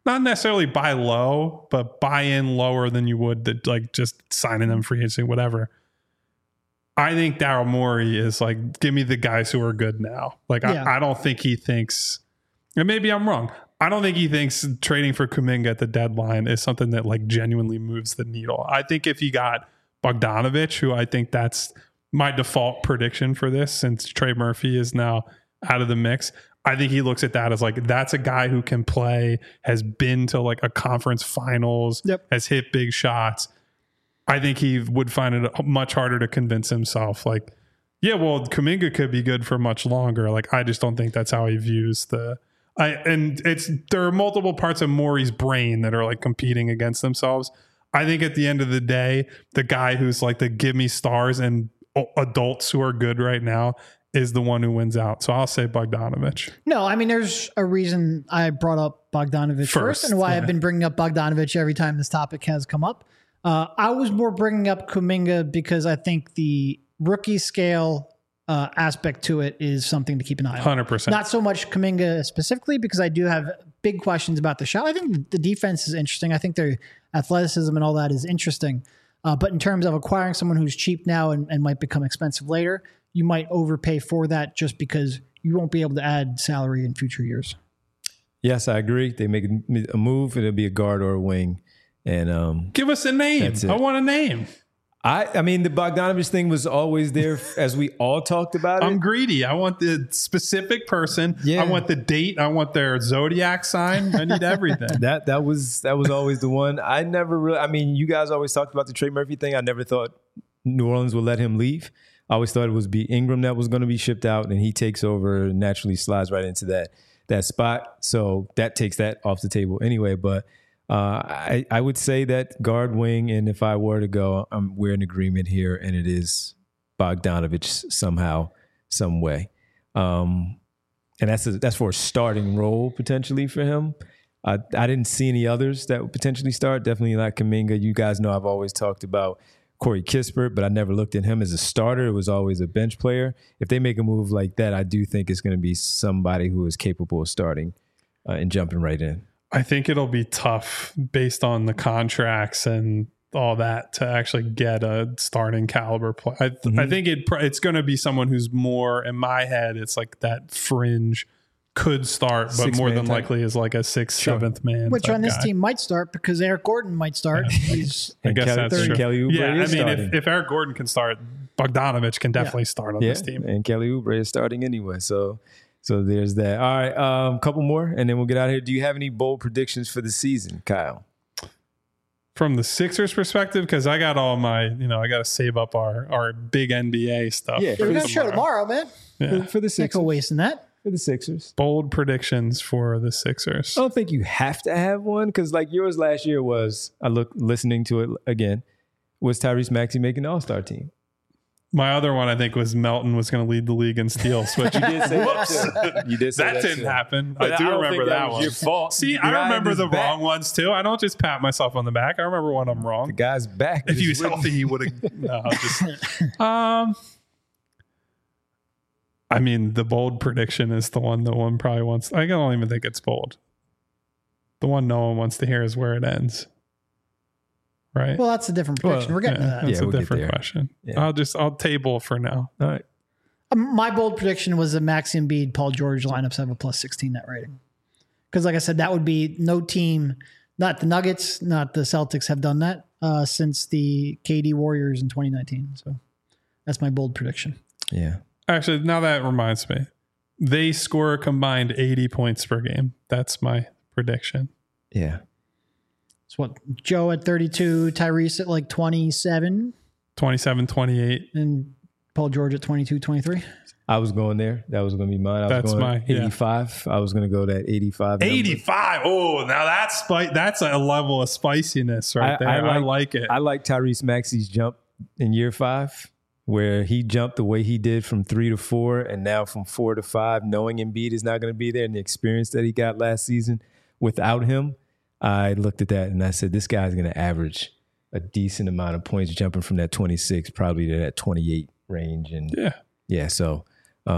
not necessarily buy low, but buy in lower than you would that like just signing them free agency, whatever. I think Daryl Morey is like, give me the guys who are good now. Like, Yeah. I don't think he thinks, and maybe I'm wrong, I don't think he thinks trading for Kuminga at the deadline is something that like genuinely moves the needle. I think if he got Bogdanovich, who I think that's my default prediction for this since Trey Murphy is now out of the mix, I think he looks at that as like, that's a guy who can play, has been to like a conference finals, Yep. has hit big shots. I think he would find it much harder to convince himself like, yeah, well, Kuminga could be good for much longer. Like, I just don't think that's how he views there are multiple parts of Morey's brain that are like competing against themselves. I think at the end of the day, the guy who's like the give me stars and adults who are good right now is the one who wins out. So I'll say Bogdanovich. No, I mean, there's a reason I brought up Bogdanovich first and why I've been bringing up Bogdanovich every time this topic has come up. I was more bringing up Kuminga because I think the rookie scale aspect to it is something to keep an eye on. 100%. Not so much Kuminga specifically because I do have big questions about the shot. I think the defense is interesting. I think their athleticism and all that is interesting. But in terms of acquiring someone who's cheap now and might become expensive later, you might overpay for that just because you won't be able to add salary in future years. Yes, I agree. They make a move, it'll be a guard or a wing. And give us a name. I want a name. I mean, the Bogdanovich thing was always there as we all talked about it. I'm greedy. I want the specific person. Yeah. I want the date. I want their zodiac sign. I need everything. That was always the one. I never really, I mean, you guys always talked about the Trey Murphy thing. I never thought New Orleans would let him leave. I always thought it was Ingram that was going to be shipped out, and he takes over and naturally slides right into that spot. So that takes that off the table anyway. But I would say that guard, wing, and if I were to go, we're in agreement here, and it is Bogdanovich somehow, some way. And that's for a starting role potentially for him. I didn't see any others that would potentially start. Definitely not Kuminga. You guys know I've always talked about Corey Kispert, but I never looked at him as a starter. It was always a bench player. If they make a move like that, I do think it's going to be somebody who is capable of starting and jumping right in. I think it'll be tough based on the contracts and all that to actually get a starting caliber play. I think it's going to be someone who's more, in my head, it's like that fringe could start, but more than likely is like a 6th, 7th man. Which on this team might start because Eric Gordon might start. Yeah. I guess that's true. Kelly Oubre I mean, if Eric Gordon can start, Bogdanovich can definitely start on this team. And Kelly Oubre is starting anyway. So there's that. All right, couple more, and then we'll get out of here. Do you have any bold predictions for the season, Kyle? From the Sixers perspective, because I got all my, I got to save up our big NBA stuff. Yeah, we're going to show tomorrow, man. Yeah. For the Sixers. No wasting that. For the Sixers. Bold predictions for the Sixers. I don't think you have to have one, because like yours last year was, listening to it again, was Tyrese Maxey making the All-Star team. My other one, I think, was Melton was going to lead the league in steals. Which you did say that. You did say that didn't happen. I do remember that one. Your fault. See, I remember the wrong ones too. I don't just pat myself on the back. I remember when I'm wrong. The guy's back. If he was healthy, he would have. No, I mean, the bold prediction is the one that one probably wants. I don't even think it's bold. The one no one wants to hear is where it ends. Right. Well, that's a different prediction. We're getting to that. That's a different question. Yeah. I'll table for now. All right. My bold prediction was that Maxey, Embiid, Paul George lineups have a plus 16 net rating. Because like I said, that would be no team, not the Nuggets, not the Celtics have done that since the KD Warriors in 2019. So that's my bold prediction. Yeah. Actually, now that reminds me. They score a combined 80 points per game. That's my prediction. Yeah. It's what Joe at 32, Tyrese at like 27. 27, 28. And Paul George at 22, 23. I was going there. That was going to be mine. That's my 85. I was going to go that 85. 85. Oh, now that's a level of spiciness right there. I like it. I like Tyrese Maxey's jump in year 5, where he jumped the way he did from 3 to 4 and now from 4 to 5, knowing Embiid is not going to be there and the experience that he got last season without him. I looked at that and I said, this guy's going to average a decent amount of points jumping from that 26 probably to that 28 range. And so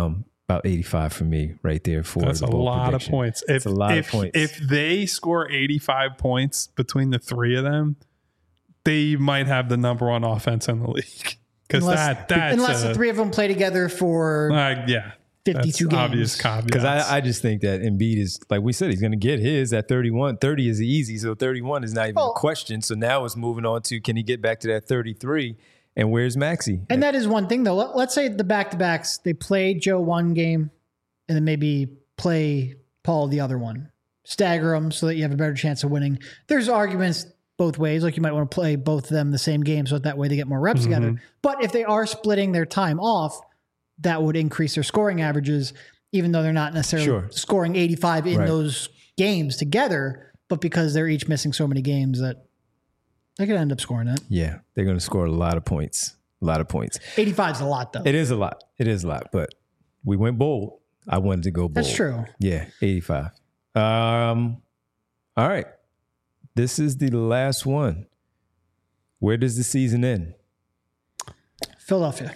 About 85 for me right there for That's the a bold lot prediction. of points. It's a lot of points. If they score 85 points between the three of them, they might have the number one offense in the league. Because unless the three of them play together for 52 games. Obvious caveats. Because I just think that Embiid is, like we said, he's going to get his at 31. 30 is easy, so 31 is not even a question. So now it's moving on to, can he get back to that 33? And where's Maxey? And that is one thing, though. Let's say the back-to-backs, they play Joe one game and then maybe play Paul the other one. Stagger them so that you have a better chance of winning. There's arguments both ways. Like you might want to play both of them the same game so that way they get more reps together. But if they are splitting their time off, that would increase their scoring averages, even though they're not necessarily scoring 85 in those games together, but because they're each missing so many games that they could end up scoring that. Yeah, they're going to score a lot of points. A lot of points. 85 is a lot, though. It is a lot. It is a lot. But we went bold. I wanted to go bold. That's true. Yeah, 85. All right. This is the last one. Where does the season end? Philadelphia.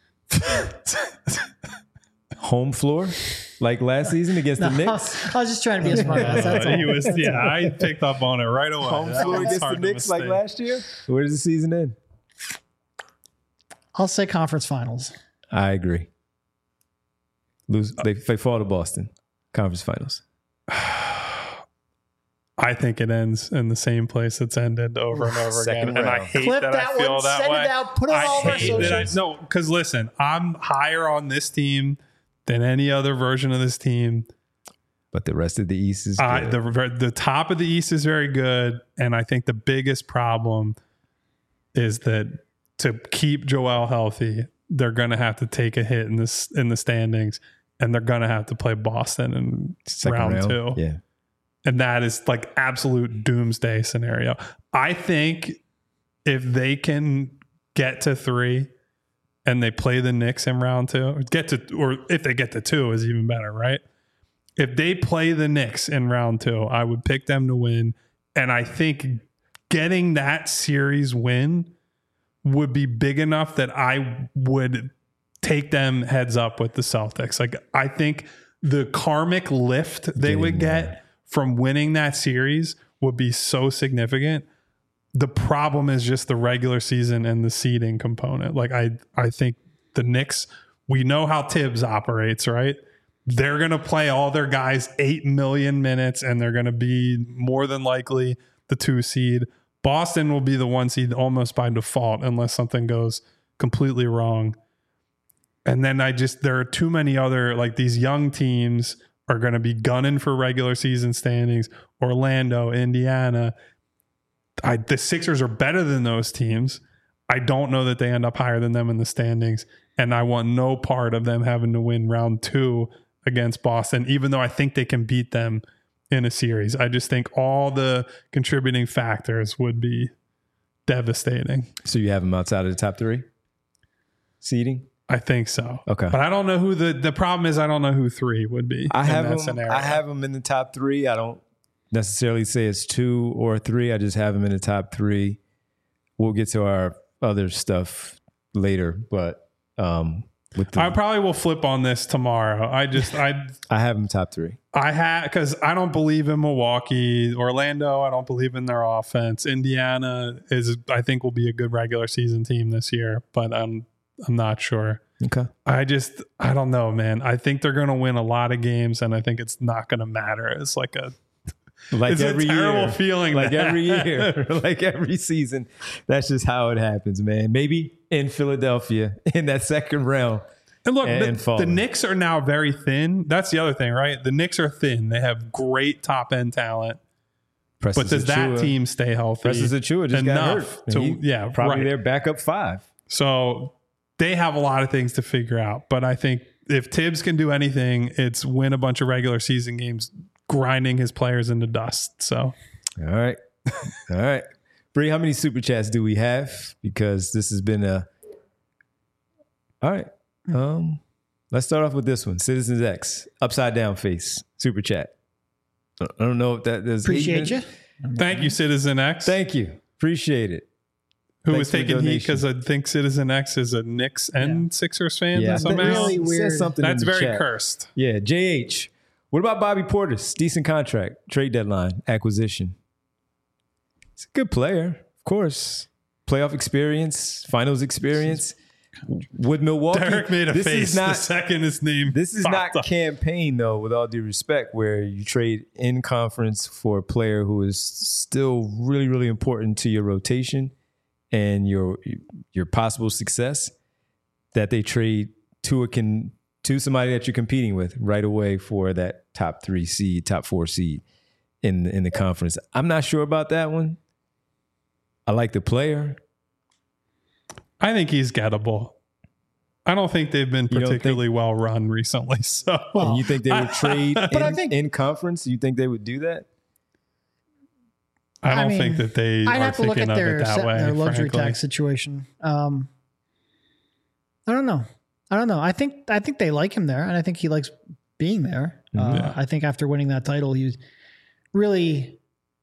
Home floor? Like last season against the Knicks? I was just trying to be a smart ass. That's all. I picked up on it right away. Home floor against the Knicks like last year? Where does the season end? I'll say conference finals. I agree. They fall to Boston. Conference finals. I think it ends in the same place it's ended over and over again. Round. And I hate Clip that that I feel one, that send way. it out, put it on all of our socials. No, because listen, I'm higher on this team than any other version of this team. But the rest of the East is good. The top of the East is very good. And I think the biggest problem is that to keep Joel healthy, they're going to have to take a hit in the standings. And they're going to have to play Boston in round 2. Yeah. And that is like absolute doomsday scenario. I think if they can get to 3 and they play the Knicks in round 2, or if they get to 2 is even better, right? If they play the Knicks in round 2, I would pick them to win. And I think getting that series win would be big enough that I would take them heads up with the Celtics. Like I think the karmic lift they would get from winning that series would be so significant. The problem is just the regular season and the seeding component. Like I think the Knicks, we know how Tibbs operates, right? They're going to play all their guys 8 million minutes and they're going to be more than likely the 2 seed. Boston will be the 1 seed almost by default unless something goes completely wrong. And then there are too many other, like these young teams are going to be gunning for regular season standings. Orlando, Indiana. The Sixers are better than those teams. I don't know that they end up higher than them in the standings. And I want no part of them having to win round 2 against Boston, even though I think they can beat them in a series. I just think all the contributing factors would be devastating. So you have them outside of the top 3 seeding? I think so. Okay. But I don't know who the problem is. I don't know who 3 would be. I have them in the top 3. I don't necessarily say it's 2 or 3. I just have them in the top 3. We'll get to our other stuff later, but I probably will flip on this tomorrow. I have them top 3. Because I don't believe in Milwaukee. Orlando, I don't believe in their offense. Indiana I think will be a good regular season team this year, but I'm not sure. Okay. I don't know, man. I think they're going to win a lot of games, and I think it's not going to matter. It's like it's every a terrible year. feeling. Like every year, like every season. That's just how it happens, man. Maybe in Philadelphia in that second round. And look, the Knicks are now very thin. That's the other thing, right? The Knicks are thin. They have great top end talent. But does that team stay healthy? Precious Achiuwa just got hurt. Probably their backup 5. So they have a lot of things to figure out. But I think if Tibbs can do anything, it's win a bunch of regular season games, grinding his players into dust. So, all right. Bree, how many super chats do we have? Because this has been all right. Let's start off with this one. Citizens X, upside down face, super chat. I don't know if that is. Appreciate you. Thank you, Citizen X. Thank you. Appreciate it. Who Thanks was for the taking heat donation. because I think Citizen X is a Knicks and Sixers fan Yeah, somehow. really It says weird. something in That's the very chat. cursed. Yeah, JH. What about Bobby Portis? Decent contract, trade deadline, acquisition. He's a good player, of course. Playoff experience, finals experience. Would Milwaukee? Derek made a this face Is not, the second his name. this is not popped up. campaign, though, with all due respect, where you trade in conference for a player who is still really, really important to your rotation and your possible success, that they trade to somebody that you're competing with right away for that top 3 seed, top 4 seed in the conference. I'm not sure about that one. I like the player. I think he's gettable. I don't think they've been You don't particularly well run recently. So And you think they would trade I think- in conference? You think they would do that? I don't mean, think that they I'd are have to look thinking at of it that way. their luxury frankly. tax situation. I don't know. I think they like him there, and I think he likes being there. Yeah. I think after winning that title, he was really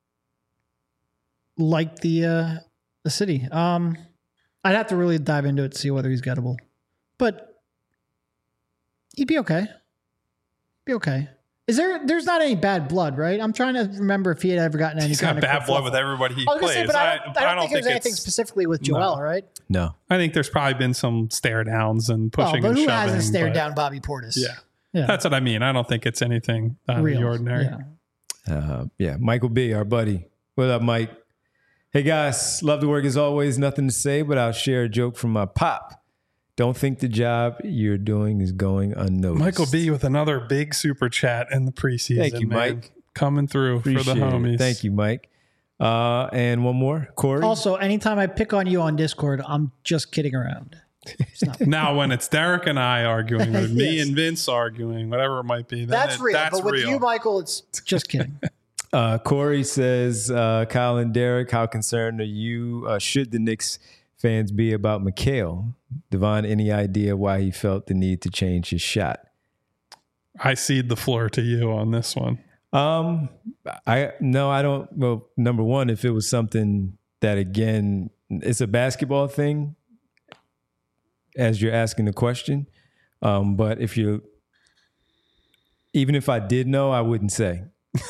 liked the city. I'd have to really dive into it to see whether he's gettable, but he'd be okay. Be okay. There's not any bad blood, right? I'm trying to remember if he had ever gotten any He's kind got of bad blood with everybody he I was gonna plays. say, but I don't think there's anything it's. specifically with Joel, right? No. I think there's probably been some stare downs and Well, pushing but and who shoving. hasn't stared but- down Bobby Portis? Yeah. Yeah. That's what I mean. I don't think it's anything out of Real. the ordinary. Yeah. Michael B., our buddy. What up, Mike? Hey, guys. Love the work as always. Nothing to say, but I'll share a joke from my pop. Don't think the job you're doing is going unnoticed. Michael B. with another big super chat in the preseason. Thank you, man. Mike. Coming through Appreciate for the homies. it. Thank you, Mike. And one more. Corey? Also, anytime I pick on you on Discord, I'm just kidding around. It's not. Now, when it's Derek and I arguing, or me Yes. and Vince arguing, whatever it might be, then That's real. That's but with real. you, Michael, it's just kidding. Corey says, Kyle and Derek, how concerned are you? Should the Knicks fans be about Mikal? Devon, any idea why he felt the need to change his shot? I cede the floor to you on this one. I don't. Well, number one, if it was something that, again, it's a basketball thing, as you're asking the question. But even if I did know, I wouldn't say.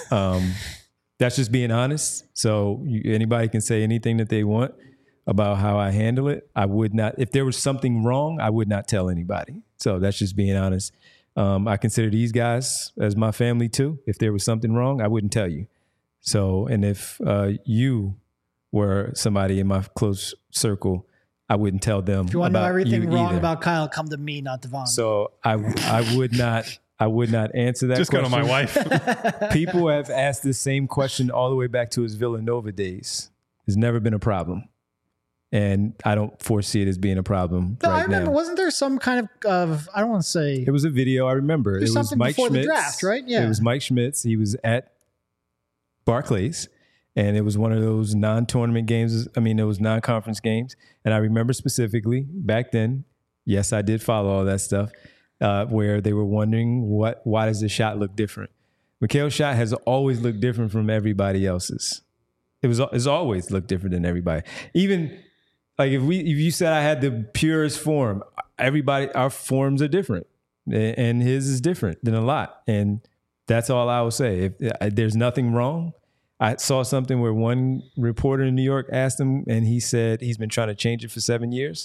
That's just being honest. So anybody can say anything that they want about how I handle it. I would not. If there was something wrong, I would not tell anybody. So that's just being honest. I consider these guys as my family too. If there was something wrong, I wouldn't tell you. So, and if you were somebody in my close circle, I wouldn't tell them. If you want to know about everything you wrong either. about Kyle, come to me, not Devon. So I would not. I would not answer that. Just question. go to my wife. People have asked the same question all the way back to his Villanova days. It's never been a problem. And I don't foresee it as being a problem No, right I remember. now. Wasn't there some kind of I don't want to say It was a video. I remember. There's It was something Mike before the Schmitz. draft, right? Yeah. It was Mike Schmitz. He was at Barclays, and it was one of those non-tournament games. I mean, it was non-conference games. And I remember specifically back then, yes, I did follow all that stuff, where they were wondering why does this shot look different? Mikal's shot has always looked different from everybody else's. It's always looked different than everybody. Even like if you said I had the purest form, our forms are different, and his is different than a lot. And that's all I will say. If there's nothing wrong, I saw something where one reporter in New York asked him, and he said he's been trying to change it for 7 years.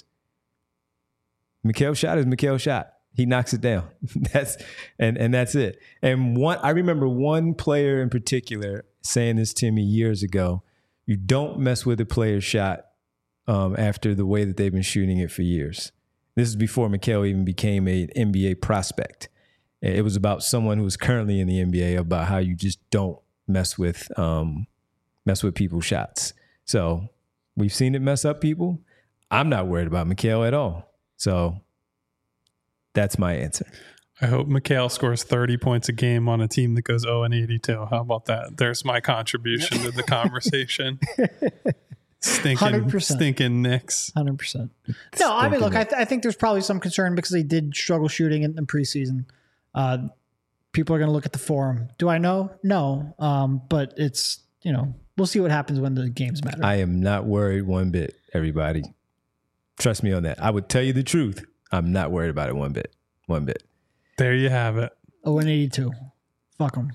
Mikal's shot is Mikal's shot. He knocks it down. That's it. And I remember one player in particular saying this to me years ago. You don't mess with a player's shot after the way that they've been shooting it for years. This is before Mikal even became an NBA prospect. It was about someone who was currently in the NBA, about how you just don't mess with people's shots. So we've seen it mess up people. I'm not worried about Mikal at all. So that's my answer. I hope Mikal scores 30 points a game on a team that goes 0-82. How about that? There's my contribution to the conversation. Stinking 100%. Knicks. 100%. No, I mean, look, I think there's probably some concern because they did struggle shooting in preseason. People are going to look at the form. Do I know? No. But it's, we'll see what happens when the games matter. I am not worried one bit, everybody. Trust me on that. I would tell you the truth. I'm not worried about it one bit. One bit. There you have it. 0-82. Fuck them.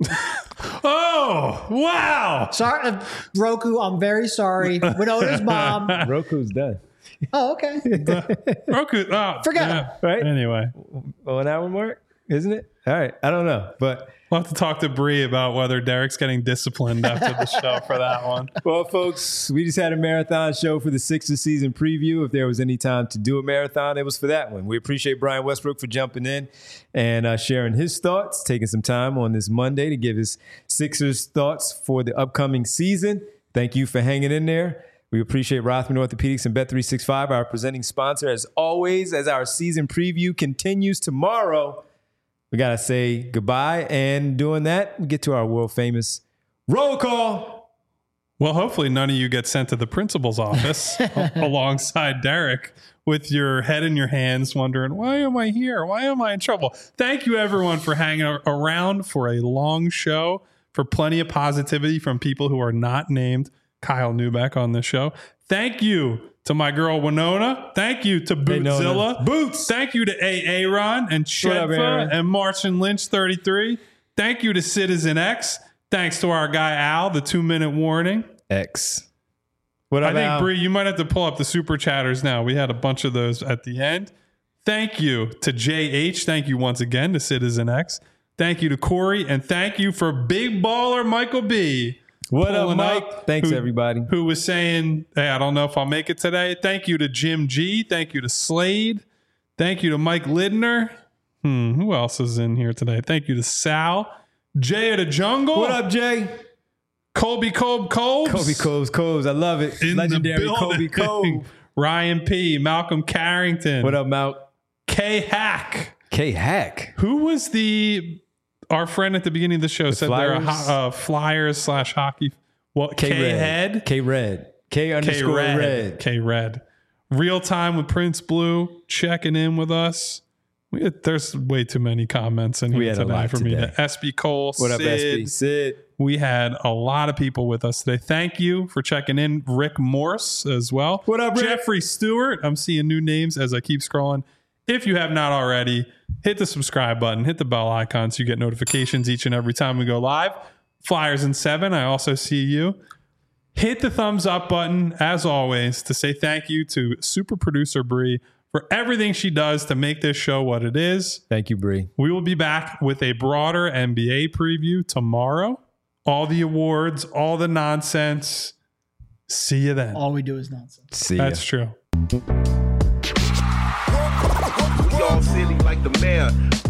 Oh, wow. Sorry, Roku, I'm very sorry. Winona's mom. Roku's done. Oh, okay. Roku. Oh, Forget yeah. it. Right? Anyway. Well, an hour mark, isn't it? All right. I don't know. But we'll have to talk to Bree about whether Derek's getting disciplined after the show for that one. well, folks, we just had a marathon show for the Sixers season preview. If there was any time to do a marathon, it was for that one. We appreciate Brian Westbrook for jumping in and sharing his thoughts, taking some time on this Monday to give his Sixers thoughts for the upcoming season. Thank you for hanging in there. We appreciate Rothman Orthopedics and Bet365, our presenting sponsor. As always, as our season preview continues tomorrow, we got to say goodbye. And doing that, we get to our world famous roll call. Well, hopefully none of you get sent to the principal's office alongside Derek with your head in your hands wondering, why am I here? Why am I in trouble? Thank you, everyone, for hanging around for a long show, for plenty of positivity from people who are not named Kyle Neubeck on this show. Thank you to my girl Winona. Thank you to Bootzilla. Boots. Thank you to Aaron and Shedfa and Martian Lynch 33. Thank you to Citizen X. Thanks to our guy Al, the 2-minute warning. X. What up, I think, Al? Bree, you might have to pull up the super chatters now. We had a bunch of those at the end. Thank you to JH. Thank you once again to Citizen X. Thank you to Corey. And thank you for Big Baller Michael B. What up, Mike? Thanks, everybody. Who was saying, hey, I don't know if I'll make it today. Thank you to Jim G. Thank you to Slade. Thank you to Mike Lidner. Who else is in here today? Thank you to Sal. Jay of the Jungle. What up, Jay? Colby Cove Coves. Colby Coves. I love it. In Legendary the Colby Cove. Ryan P. Malcolm Carrington. What up, Malk? K Hack. K Hack. Who was our friend at the beginning of the show said Flyers? they're Flyers/hockey. What? K-Head? K-Red. K_Red. K-Red. Real time with Prince Blue checking in with us. There's way too many comments in here today for me. SB Cole, what up, Sid. SB? Sid. We had a lot of people with us today. Thank you for checking in. Rick Morse as well. What up, Rick? Jeffrey Stewart. I'm seeing new names as I keep scrolling. If you have not already, hit the subscribe button, hit the bell icon so you get notifications each and every time we go live. Flyers in 7, I also see you. Hit the thumbs up button, as always, to say thank you to super producer Bree for everything she does to make this show what it is. Thank you, Bree. We will be back with a broader NBA preview tomorrow. All the awards, all the nonsense. See you then. All we do is nonsense. See ya. That's true. We all silly like the mayor.